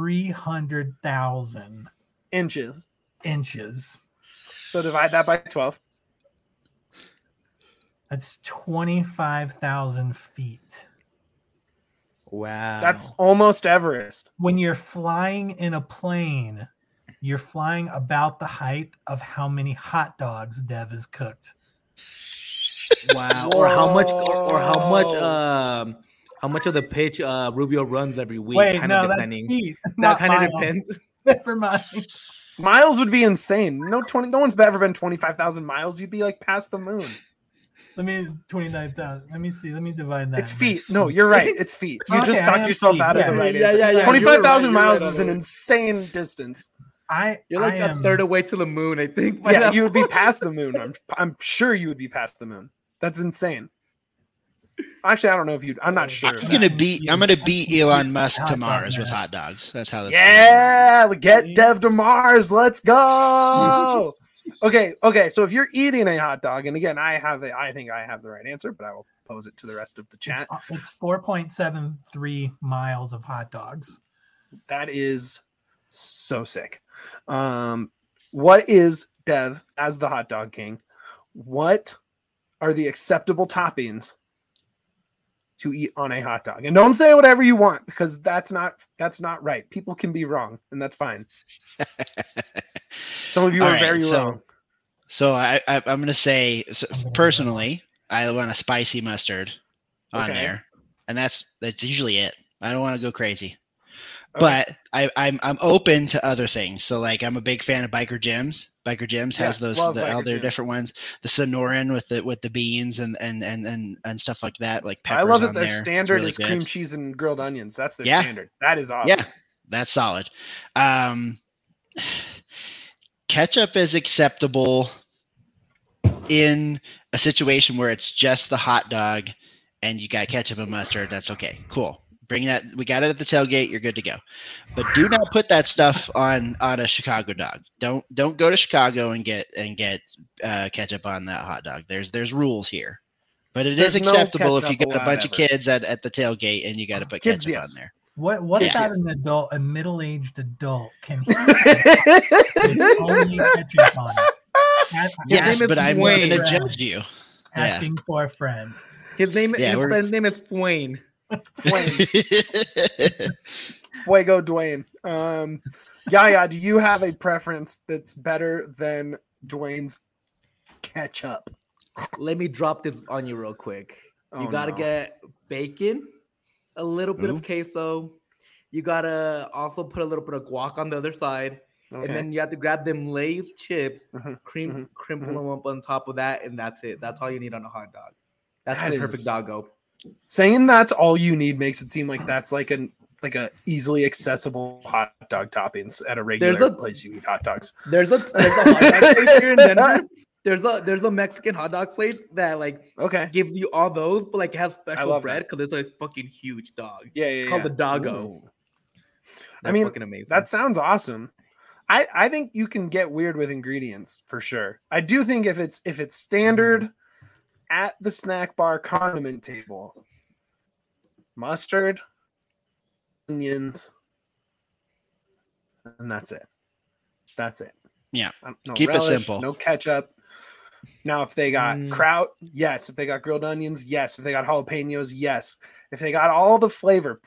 300,000 inches. So divide that by 12. That's 25,000 feet. Wow. That's almost Everest. When you're flying in a plane you're flying about the height of how many hot dogs Dev has cooked. Wow. Or how much of the pitch Rubio runs every week. Wait, kind no, of that's depending. feet, That not kind of miles. depends. Never mind. Miles would be insane. No one's ever been 25,000 miles. You'd be like past the moon. Let me 29,000. Let me see. Let me divide that. It's feet. No, you're right. It's feet. You Okay, just I talked am yourself feet, out of yeah. the right Yeah, answer. yeah, yeah. 25,000 You're right, miles you're right is an on it. insane distance. You're like a third away to the moon, I think. by Yeah, that you would be point. past the moon. I'm sure you would be past the moon. That's insane. Actually, I don't know if you'd. I'm not sure. I'm gonna beat Elon Musk to Mars with hot dogs. That's how this is. Yeah, we get Dev to Mars. Let's go. Okay. So if you're eating a hot dog, and again, I think I have the right answer, but I will pose it to the rest of the chat. It's 4.73 miles of hot dogs. That is so sick. What is Dev as the hot dog king? What are the acceptable toppings to eat on a hot dog? And don't say whatever you want, because that's not right. People can be wrong, and that's fine. Some of you All are right, very so- wrong. So I'm gonna say personally, I want a spicy mustard on Okay. there, and that's usually it. I don't want to go crazy, Okay. but I'm open to other things. So like I'm a big fan of Biker Jim's. Biker Jim's has Yeah, those love all Biker their Jim's. different ones. The Sonoran with the beans and stuff like that. Like peppers I love on that their there. It's standard really is good. cream cheese and grilled onions. That's their Yeah. standard. That is awesome. Yeah, that's solid. Ketchup is acceptable in a situation where it's just the hot dog and you got ketchup and mustard. That's okay. Cool. Bring that. We got it at the tailgate. You're good to go. But do not put that stuff on a Chicago dog. Don't go to Chicago and get ketchup on that hot dog. There's rules here. But it is There's no acceptable if you ketchup get a bunch of allowed ever. kids at the tailgate and you got to put Kids, ketchup yes. on there. What Yeah. about an adult, a middle-aged adult? Can he put only ketchup on it? Yes, name is but I'm Wayne. going to judge you. Asking for a friend. His Yeah, we're- friend's name is Swain. Fuego Dwayne. Yaya, do you have a preference that's better than Dwayne's ketchup? Let me drop this on you real quick. Oh, You gotta no. get bacon, a little bit Ooh. of queso. You gotta also put a little bit of guac on the other side. Okay. And then you have to grab them Lay's chips, Mhm, crinkle them up on top of that, and that's it. That's all you need on a hot dog. That's That the is- perfect doggo. Saying that's all you need makes it seem like that's like a easily accessible hot dog toppings at a regular a- place you eat hot dogs. There's a hot dog place here in Denver. There's a Mexican hot dog place that like Okay. gives you all those, but like it has special love bread because it's a fucking huge dog. Yeah, It's called the doggo. Ooh. They're mean, fucking amazing. That sounds awesome. I think you can get weird with ingredients for sure. I do think if it's standard at the snack bar condiment table, mustard, onions, and that's it. That's it. Yeah. No Keep it relish, simple. No ketchup. Now, if they got Mm. kraut, yes. If they got grilled onions, yes. If they got jalapenos, yes. If they got all the flavor,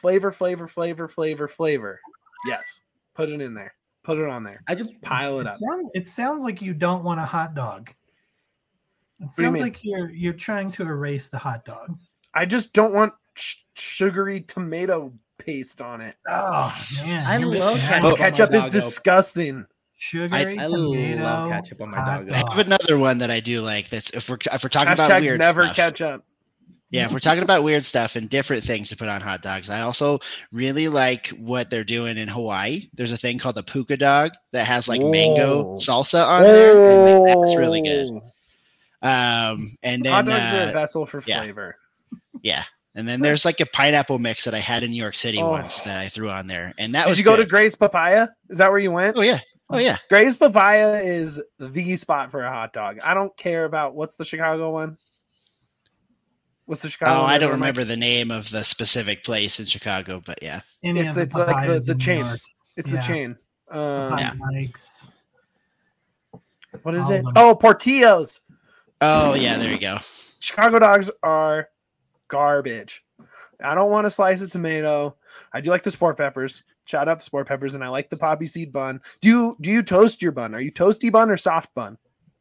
yes. Put it in there. Put it on there. I just Pile it up. It sounds like you don't want a hot dog. It do you sounds mean? like you're trying to erase the hot dog. I just don't want sugary tomato paste on it. Oh man, I you're love missing ketchup out. on my Ketchup is doggo. disgusting. Sugary I tomato. love ketchup on my hot doggo. I have another one that I do like. That's if we're talking about Hashtag weird never stuff. ketchup. Yeah, if we're talking about weird stuff and different things to put on hot dogs, I also really like what they're doing in Hawaii. There's a thing called the puka dog that has like mango Whoa. salsa on there, and that's really good. And then Hot dogs are a vessel for yeah. flavor. yeah, and then there's like a pineapple mix that I had in New York City Oh. once that I threw on there, and that Did was you go to good. Gray's Papaya? Is that where you went? Oh yeah. Gray's Papaya is the spot for a hot dog. I don't care about what's the Chicago one. What's the Chicago? Oh, one I don't everyone remember likes? the name of the specific place in Chicago, but yeah. Any It's- of it's like the- papayas the in New chain. York, It's Yeah. the chain. Papaya Mike's. What is all it? of them. Oh, Portillo's. Oh yeah, there you go. Chicago dogs are garbage. I don't want a slice of tomato. I do like the sport peppers. Shout out the sport peppers, and I like the poppy seed bun. Do you toast your bun? Are you toasty bun or soft bun?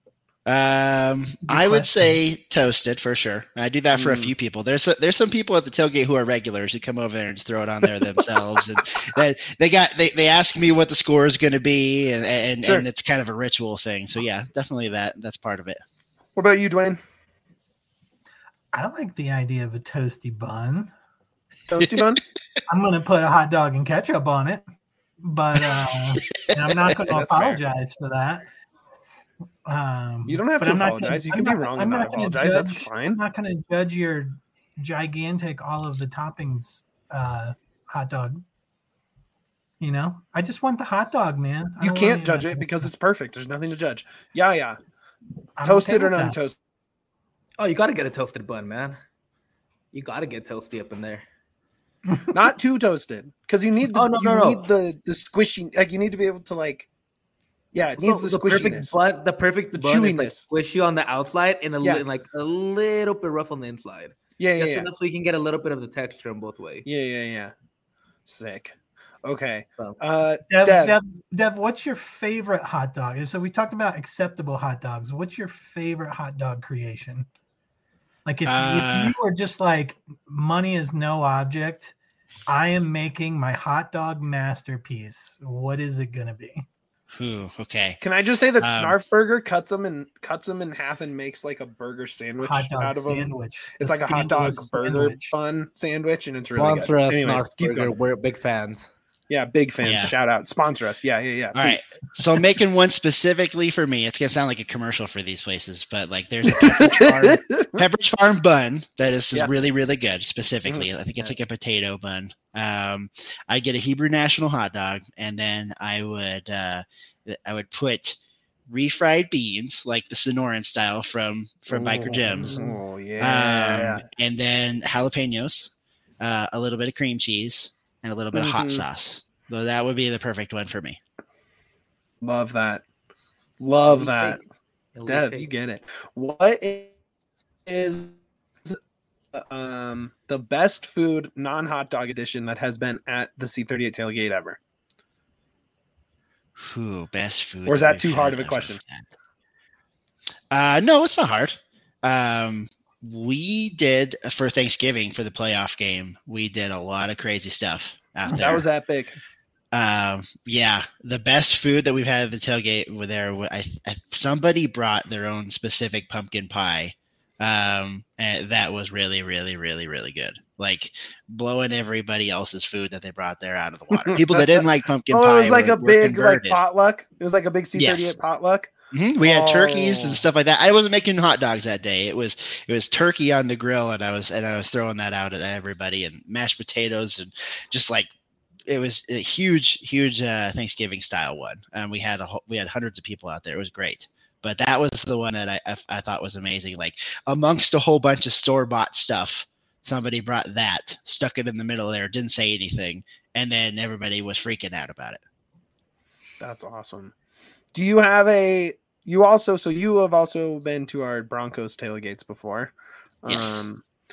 I would say toasted for sure. I do that for a few people. There's some people at the tailgate who are regulars who come over there and just throw it on there themselves, and they ask me what the score is going to be, and Sure. and it's kind of a ritual thing. So yeah, definitely that's part of it. What about you, Dwayne? I like the idea of a toasty bun. Toasty bun? I'm going to put a hot dog and ketchup on it, but and I'm not going to That's fair. apologize for that. You don't have but to I'm not apologize. gonna- You I'm can be not- wrong I'm and not not gonna apologize. That's judge- fine. I'm not going to judge your gigantic, all of the toppings hot dog. You know, I just want the hot dog, man. I You don't want can't any judge of it that because stuff. it's perfect. There's nothing to judge. Yeah. I'm Toasted okay or with that. non-toasted? Oh, you got to get a toasted bun, man. You got to get toasty up in there. Not too toasted, because you need the no. need the squishy. Like you need to be able to like. Yeah, it needs the squishiness. The perfect The bun is like chewiness. squishy on the outside and Yeah. like a little bit rough on the inside. Yeah, Just yeah. enough so you can get a little bit of the texture on both ways. Yeah. Sick. Okay. So, Dev, what's your favorite hot dog? So we talked about acceptable hot dogs. What's your favorite hot dog creation? Like if you were just like, money is no object, I am making my hot dog masterpiece, what is it gonna be? Ooh, okay. Can I just say that Um, Snarf Burger cuts them in half and makes like a burger sandwich Hot dog out of them? sandwich. It's The like a hot dog scandalous burger sandwich. bun sandwich, and it's really sponsor good. us, Anyways, Snarf keep Burger. going. We're big fans. Yeah, big fans. Yeah. Shout out, sponsor us. Yeah. All right. please. So I'm making one specifically for me. It's gonna sound like a commercial for these places, but like there's a Pepperidge Farm bun that is Yeah. really, really good. Specifically, I think it's like a potato bun. I get a Hebrew National hot dog, and then I would put refried beans, like the Sonoran style from Biker Gems, Oh yeah. and then jalapenos, a little bit of cream cheese, and a little bit of hot Mhm. sauce. So that would be the perfect one for me. Love that. Love that. Elite Dev, take. you get it. What is the best food non-hot dog edition that has been at the C38 tailgate ever? Ooh, best food. Or is that we've too hard had of a question? No, it's not hard. We did for Thanksgiving for the playoff game. We did a lot of crazy stuff out there. That was epic. Yeah, the best food that we've had at the tailgate were there. Somebody brought their own specific pumpkin pie. And that was really, really, really, really good. Like blowing everybody else's food that they brought there out of the water. People that didn't like pumpkin pie. Oh, it was like were a big like converted. potluck. It was like a big C38 Yes. potluck. We had turkeys and Oh. stuff like that. I wasn't making hot dogs that day. It was turkey on the grill, and I was throwing that out at everybody, and mashed potatoes, and just like it was a huge Thanksgiving style one. And we had hundreds of people out there. It was great. But that was the one that I thought was amazing. Like amongst a whole bunch of store-bought stuff, somebody brought that, stuck it in the middle there, didn't say anything, and then everybody was freaking out about it. That's awesome. Do you have you have also been to our Broncos tailgates before? Yes.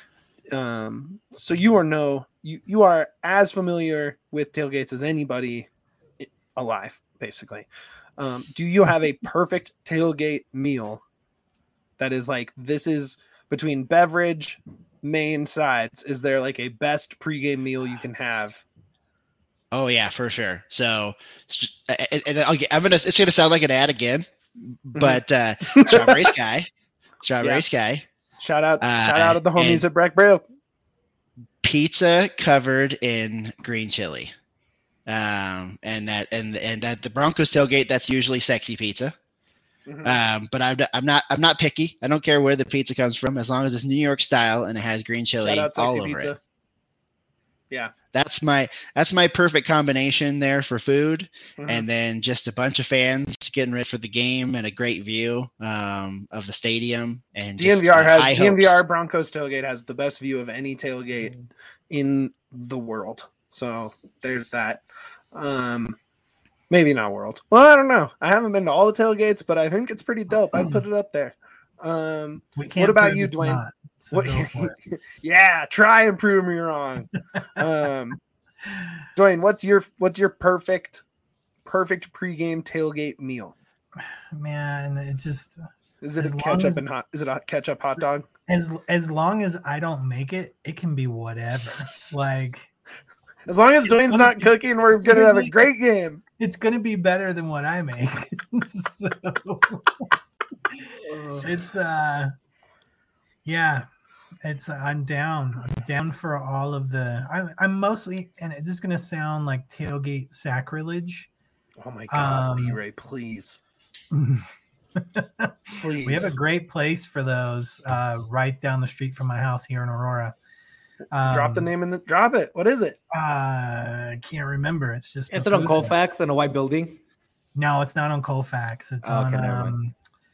So you are as familiar with tailgates as anybody alive, basically. Do you have a perfect tailgate meal that is like, this is between beverage, main sides? Is there like a best pregame meal you can have? Oh yeah, for sure. So, it's gonna sound like an ad again, but Strawberry Sky. Shout out to the homies and at Breck Brew. Pizza covered in green chili, and that the Broncos tailgate, that's usually sexy pizza. But I'm not picky. I don't care where the pizza comes from, as long as it's New York style and it has green chili Shout out all Sexy over Pizza. it. Yeah. That's my perfect combination there for food, Mhm. and then just a bunch of fans getting ready for the game and a great view of the stadium. And just, high hopes. DNVR Broncos tailgate has the best view of any tailgate in the world. So there's that. Maybe not world. Well, I don't know. I haven't been to all the tailgates, but I think it's pretty dope. I'd put it up there. We can't What about prove you, it's Dwayne? not. So go for it. Yeah, try and prove me wrong. Dwayne, what's your perfect pregame tailgate meal? Man, it just Is it as a long ketchup as- and hot? Is it a ketchup hot dog? as long as I don't make it, it can be whatever. Like As long as Dwayne's not cooking, we're gonna have a great game. it's gonna be better than what I make. So it's yeah. It's I'm down for all of the. I'm mostly, and this is gonna sound like tailgate sacrilege. Oh my God, B-Ray, please. Please. We have a great place for those right down the street from my house here in Aurora. Drop the name in the drop it. What is it? I can't remember. It's just Is it on Colfax in a white building? No, it's not on Colfax. It's Oh, okay, never on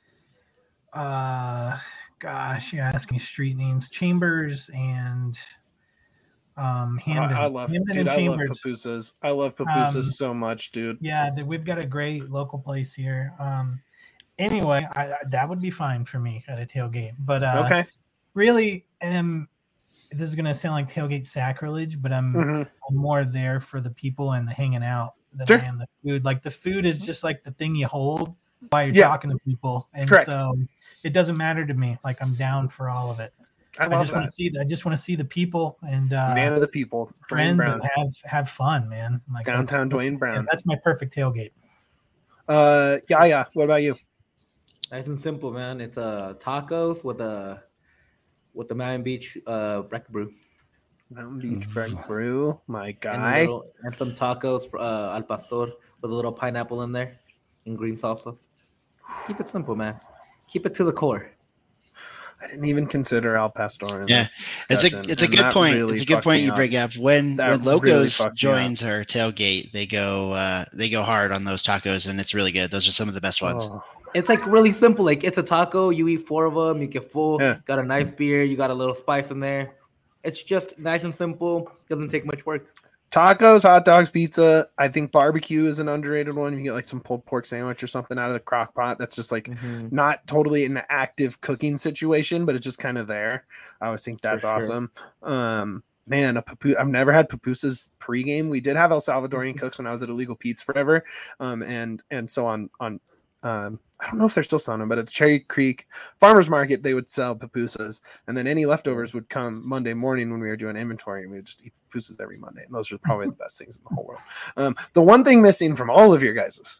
gosh, you're asking street names. Chambers and Hamden. I love Hamden dude. and I love Chambers. pupusas. I love pupusas so much, dude. Yeah, we've got a great local place here. Anyway, that would be fine for me at a tailgate. But Okay. really, this is gonna sound like tailgate sacrilege, but I'm more there for the people and the hanging out than Sure. I am the food. Like the food is just like the thing you hold while you're Yeah. talking to people, and Correct. so it doesn't matter to me. Like I'm down for all of it. I I love just want that. to see. I just want to see the people and Man of the people, Dwayne friends Brown. and have fun, man. Like Downtown that's- Dwayne Brown. That's my perfect tailgate. Yeah. What about you? Nice and simple, man. It's tacos with the Mountain Beach Breck Brew. Mountain Beach Break Brew, my And, guy. and some tacos for, al pastor with a little pineapple in there and green salsa. Keep it simple, man. Keep it to the core. I didn't even consider Al Pastor. In Yeah, this It's discussion, a and good that point. really It's a good fucked point me you up. bring up. When That really Locos fucked me joins our tailgate, they go hard on those tacos, and it's really good. Those are some of the best ones. Oh, It's like really simple. Like it's a taco. You eat 4 of them. You get full. Yeah. Got a nice beer. You got a little spice in there. It's just nice and simple. Doesn't take much work. tacos, hot dogs, pizza. I think barbecue is an underrated one. You can get like some pulled pork sandwich or something out of the crock pot. That's just like not totally an active cooking situation, but it's just kind of there. I always think that's For sure. awesome. Man, I've never had pupusas pregame. We did have El Salvadorian cooks when I was at Illegal Pete's forever. And so on I don't know if they're still selling them, but at the Cherry Creek Farmers Market, they would sell pupusas, and then any leftovers would come Monday morning when we were doing inventory, and we would just eat pupusas every Monday. And those are probably the best things in the whole world. The one thing missing from all of your guys'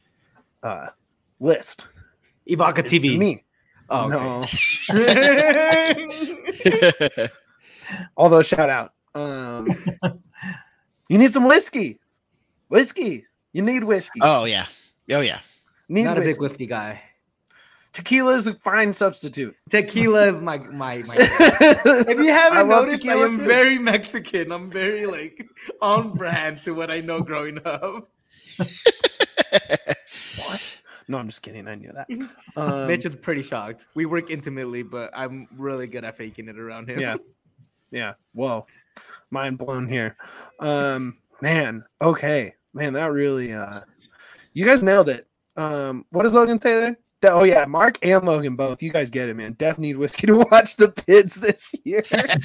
list Ibaka is to TV. me. Oh, No, okay. although shout out. You need some whiskey. You need whiskey. Oh yeah. Need Not a big whiskey. whiskey guy. Tequila is a fine substitute. Tequila is my. If you I haven't love noticed, I tequila am too. very Mexican. I'm very like on brand to what I know growing up. What? No, I'm just kidding. I knew that. Mitch is pretty shocked. We work intimately, but I'm really good at faking it around him. Yeah. Whoa. Mind blown here. Man. Okay. Man, that really you guys nailed it. What does Logan say there? Oh yeah, Mark and Logan both. You guys get it, man. Def need whiskey to watch the Pids this year.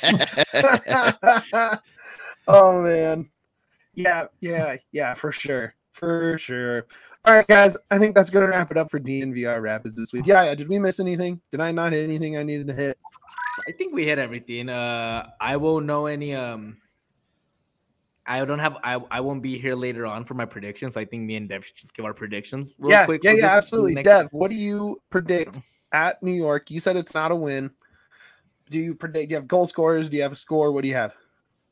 Oh man. Yeah, for sure. All right, guys. I think that's gonna wrap it up for DNVR Rapids this week. Yeah. Did we miss anything? Did I not hit anything I needed to hit? I think we hit everything. I won't know any. I won't be here later on for my predictions. I think me and Dev should just give our predictions real quick. for this Absolutely. next- Dev, what do you predict at New York? You said it's not a win. Do you predict? Do you have goal scorers? Do you have a score? What do you have?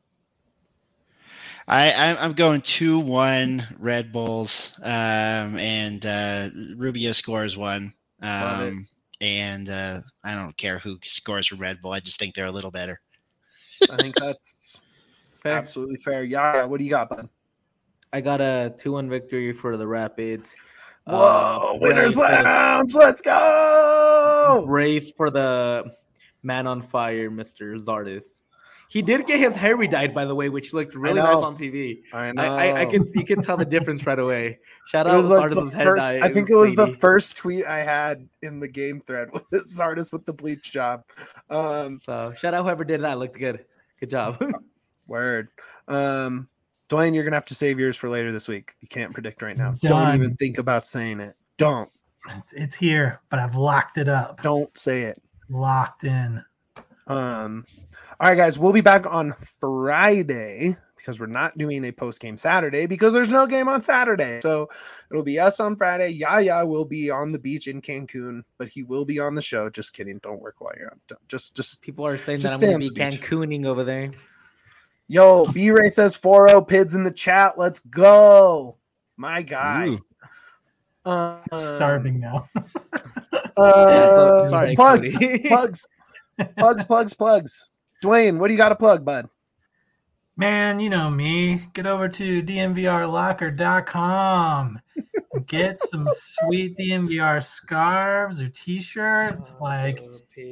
I'm going 2-1 Red Bulls, and Rubio scores 1. Love it. And I don't care who scores for Red Bull. I just think they're a little better. I think that's Fair. absolutely fair. Yeah. What do you got, bud? I got a 2-1 victory for the Rapids. Whoa, winners brace for the- lounge. Let's go. Brace for the man on fire, Mr. Zardis. He did get his hair redyed, by the way, which looked really nice on TV. I know. You can tell the difference right away. Shout It out was like Sardis' the hair first. dye. I think it was the lady. first tweet I had in the game thread was Sardis with the bleach job. So shout out whoever did that. Looked good. Good job. Word. Dwayne, you're gonna have to save yours for later this week. You can't predict right now. Done. Don't even think about saying it. Don't. It's here, but I've locked it up. Don't say it. Locked in. All right, guys, we'll be back on Friday because we're not doing a post-game Saturday because there's no game on Saturday. So it'll be us on Friday. Yaya will be on the beach in Cancun, but he will be on the show. Just kidding. Don't work while you're on. Just People are saying Just that I'm stay going to be on the beach. Cancooning over there. Yo, B-Ray says 4-0 Pids in the chat. Let's go. My guy. Ooh. Starving now. Sorry, plugs, Cody. plugs. Dwayne, what do you got to plug, bud? Man, you know me. Get over to dmvrlocker.com. Get some sweet DMVR scarves or t-shirts. Like,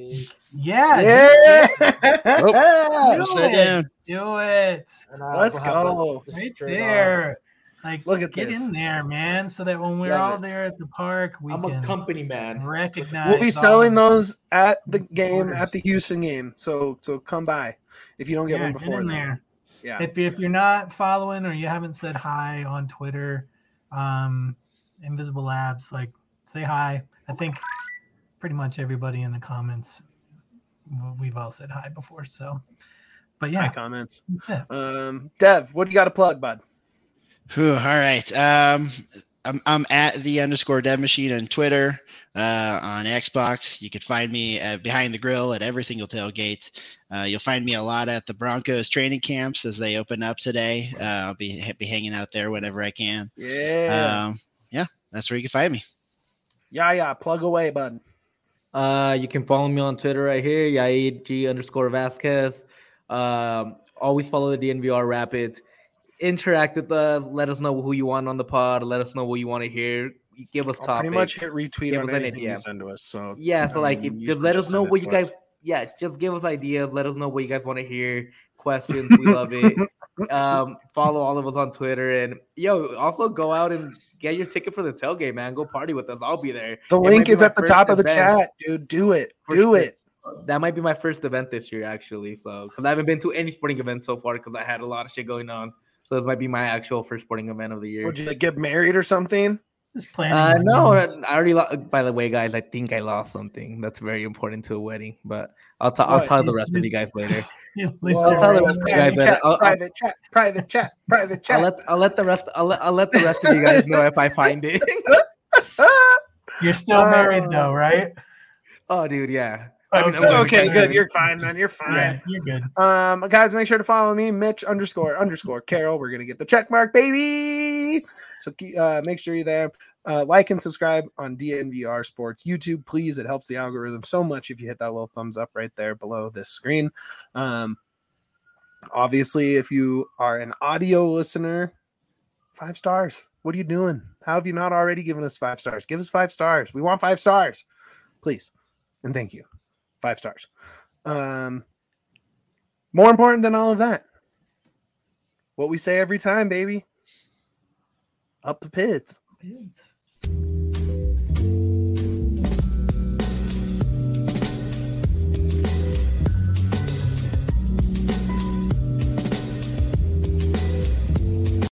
yeah. Oh, upside down. Do it. Let's go. Right there. Like, Look at get this. in there, man, so that when we're Love all it. there at the park, we I'm can a company man. recognize. We'll be all selling the those at the game, orders. at the Houston game. So come by if you don't get one Get before in then. there. Yeah. If you're not following or you haven't said hi on Twitter, Invisible Labs, like, say hi. I think pretty much everybody in the comments, we've all said hi before. So, but My yeah, comments. that's it. Dev, what do you got to plug, bud? Whew, all right. I'm at _Dev Machine on Twitter, on Xbox. You can find me behind the grill at every single tailgate. You'll find me a lot at the Broncos training camps as they open up today. I'll be hanging out there whenever I can. Yeah. Yeah, that's where you can find me. Yeah. Plug away, bud. You can follow me on Twitter right here, Yaid G_Vasquez. Always follow the DNVR Rapids. Interact with us. Let us know who you want on the pod. Let us know what you want to hear. Give us I'll topics. pretty much hit retweet Give on us an anything idea. you send to us. So So like, you just can let us know send it what you to us. guys. Yeah, just give us ideas. Let us know what you guys want to hear. Questions. We love it. Follow all of us on Twitter and also go out and get your ticket for the tailgate, man. Go party with us. I'll be there. The It might link be is my at the first top of the event. chat, dude. Do it. For Do sure. it. That might be my first event this year, actually. So, because I haven't been to any sporting events so far, because I had a lot of shit going on. So this might be my actual first sporting event of the year. Would you get married or something? Just planning. No, things. I already. By the way, guys, I think I lost something that's very important to a wedding. But I'll What? tell the rest of you guys later. You Well, lose tell it. the rest of you guys that private chat. Private chat. I'll let the rest of you guys know if I find it. You're still married though, right? Oh, dude, yeah. Okay, good. You're fine, man. You're fine. Yeah, you're good. Guys, make sure to follow me, Mitch __ Carol. We're gonna get the check mark, baby. So make sure you're there. Like and subscribe on DNVR Sports YouTube, please. It helps the algorithm so much if you hit that little thumbs up right there below this screen. Obviously, if you are an audio listener, 5 stars. What are you doing? How have you not already given us 5 stars? Give us 5 stars. We want 5 stars, please, and thank you. 5 stars. More important than all of that, what we say every time, baby. Up the Pids. It's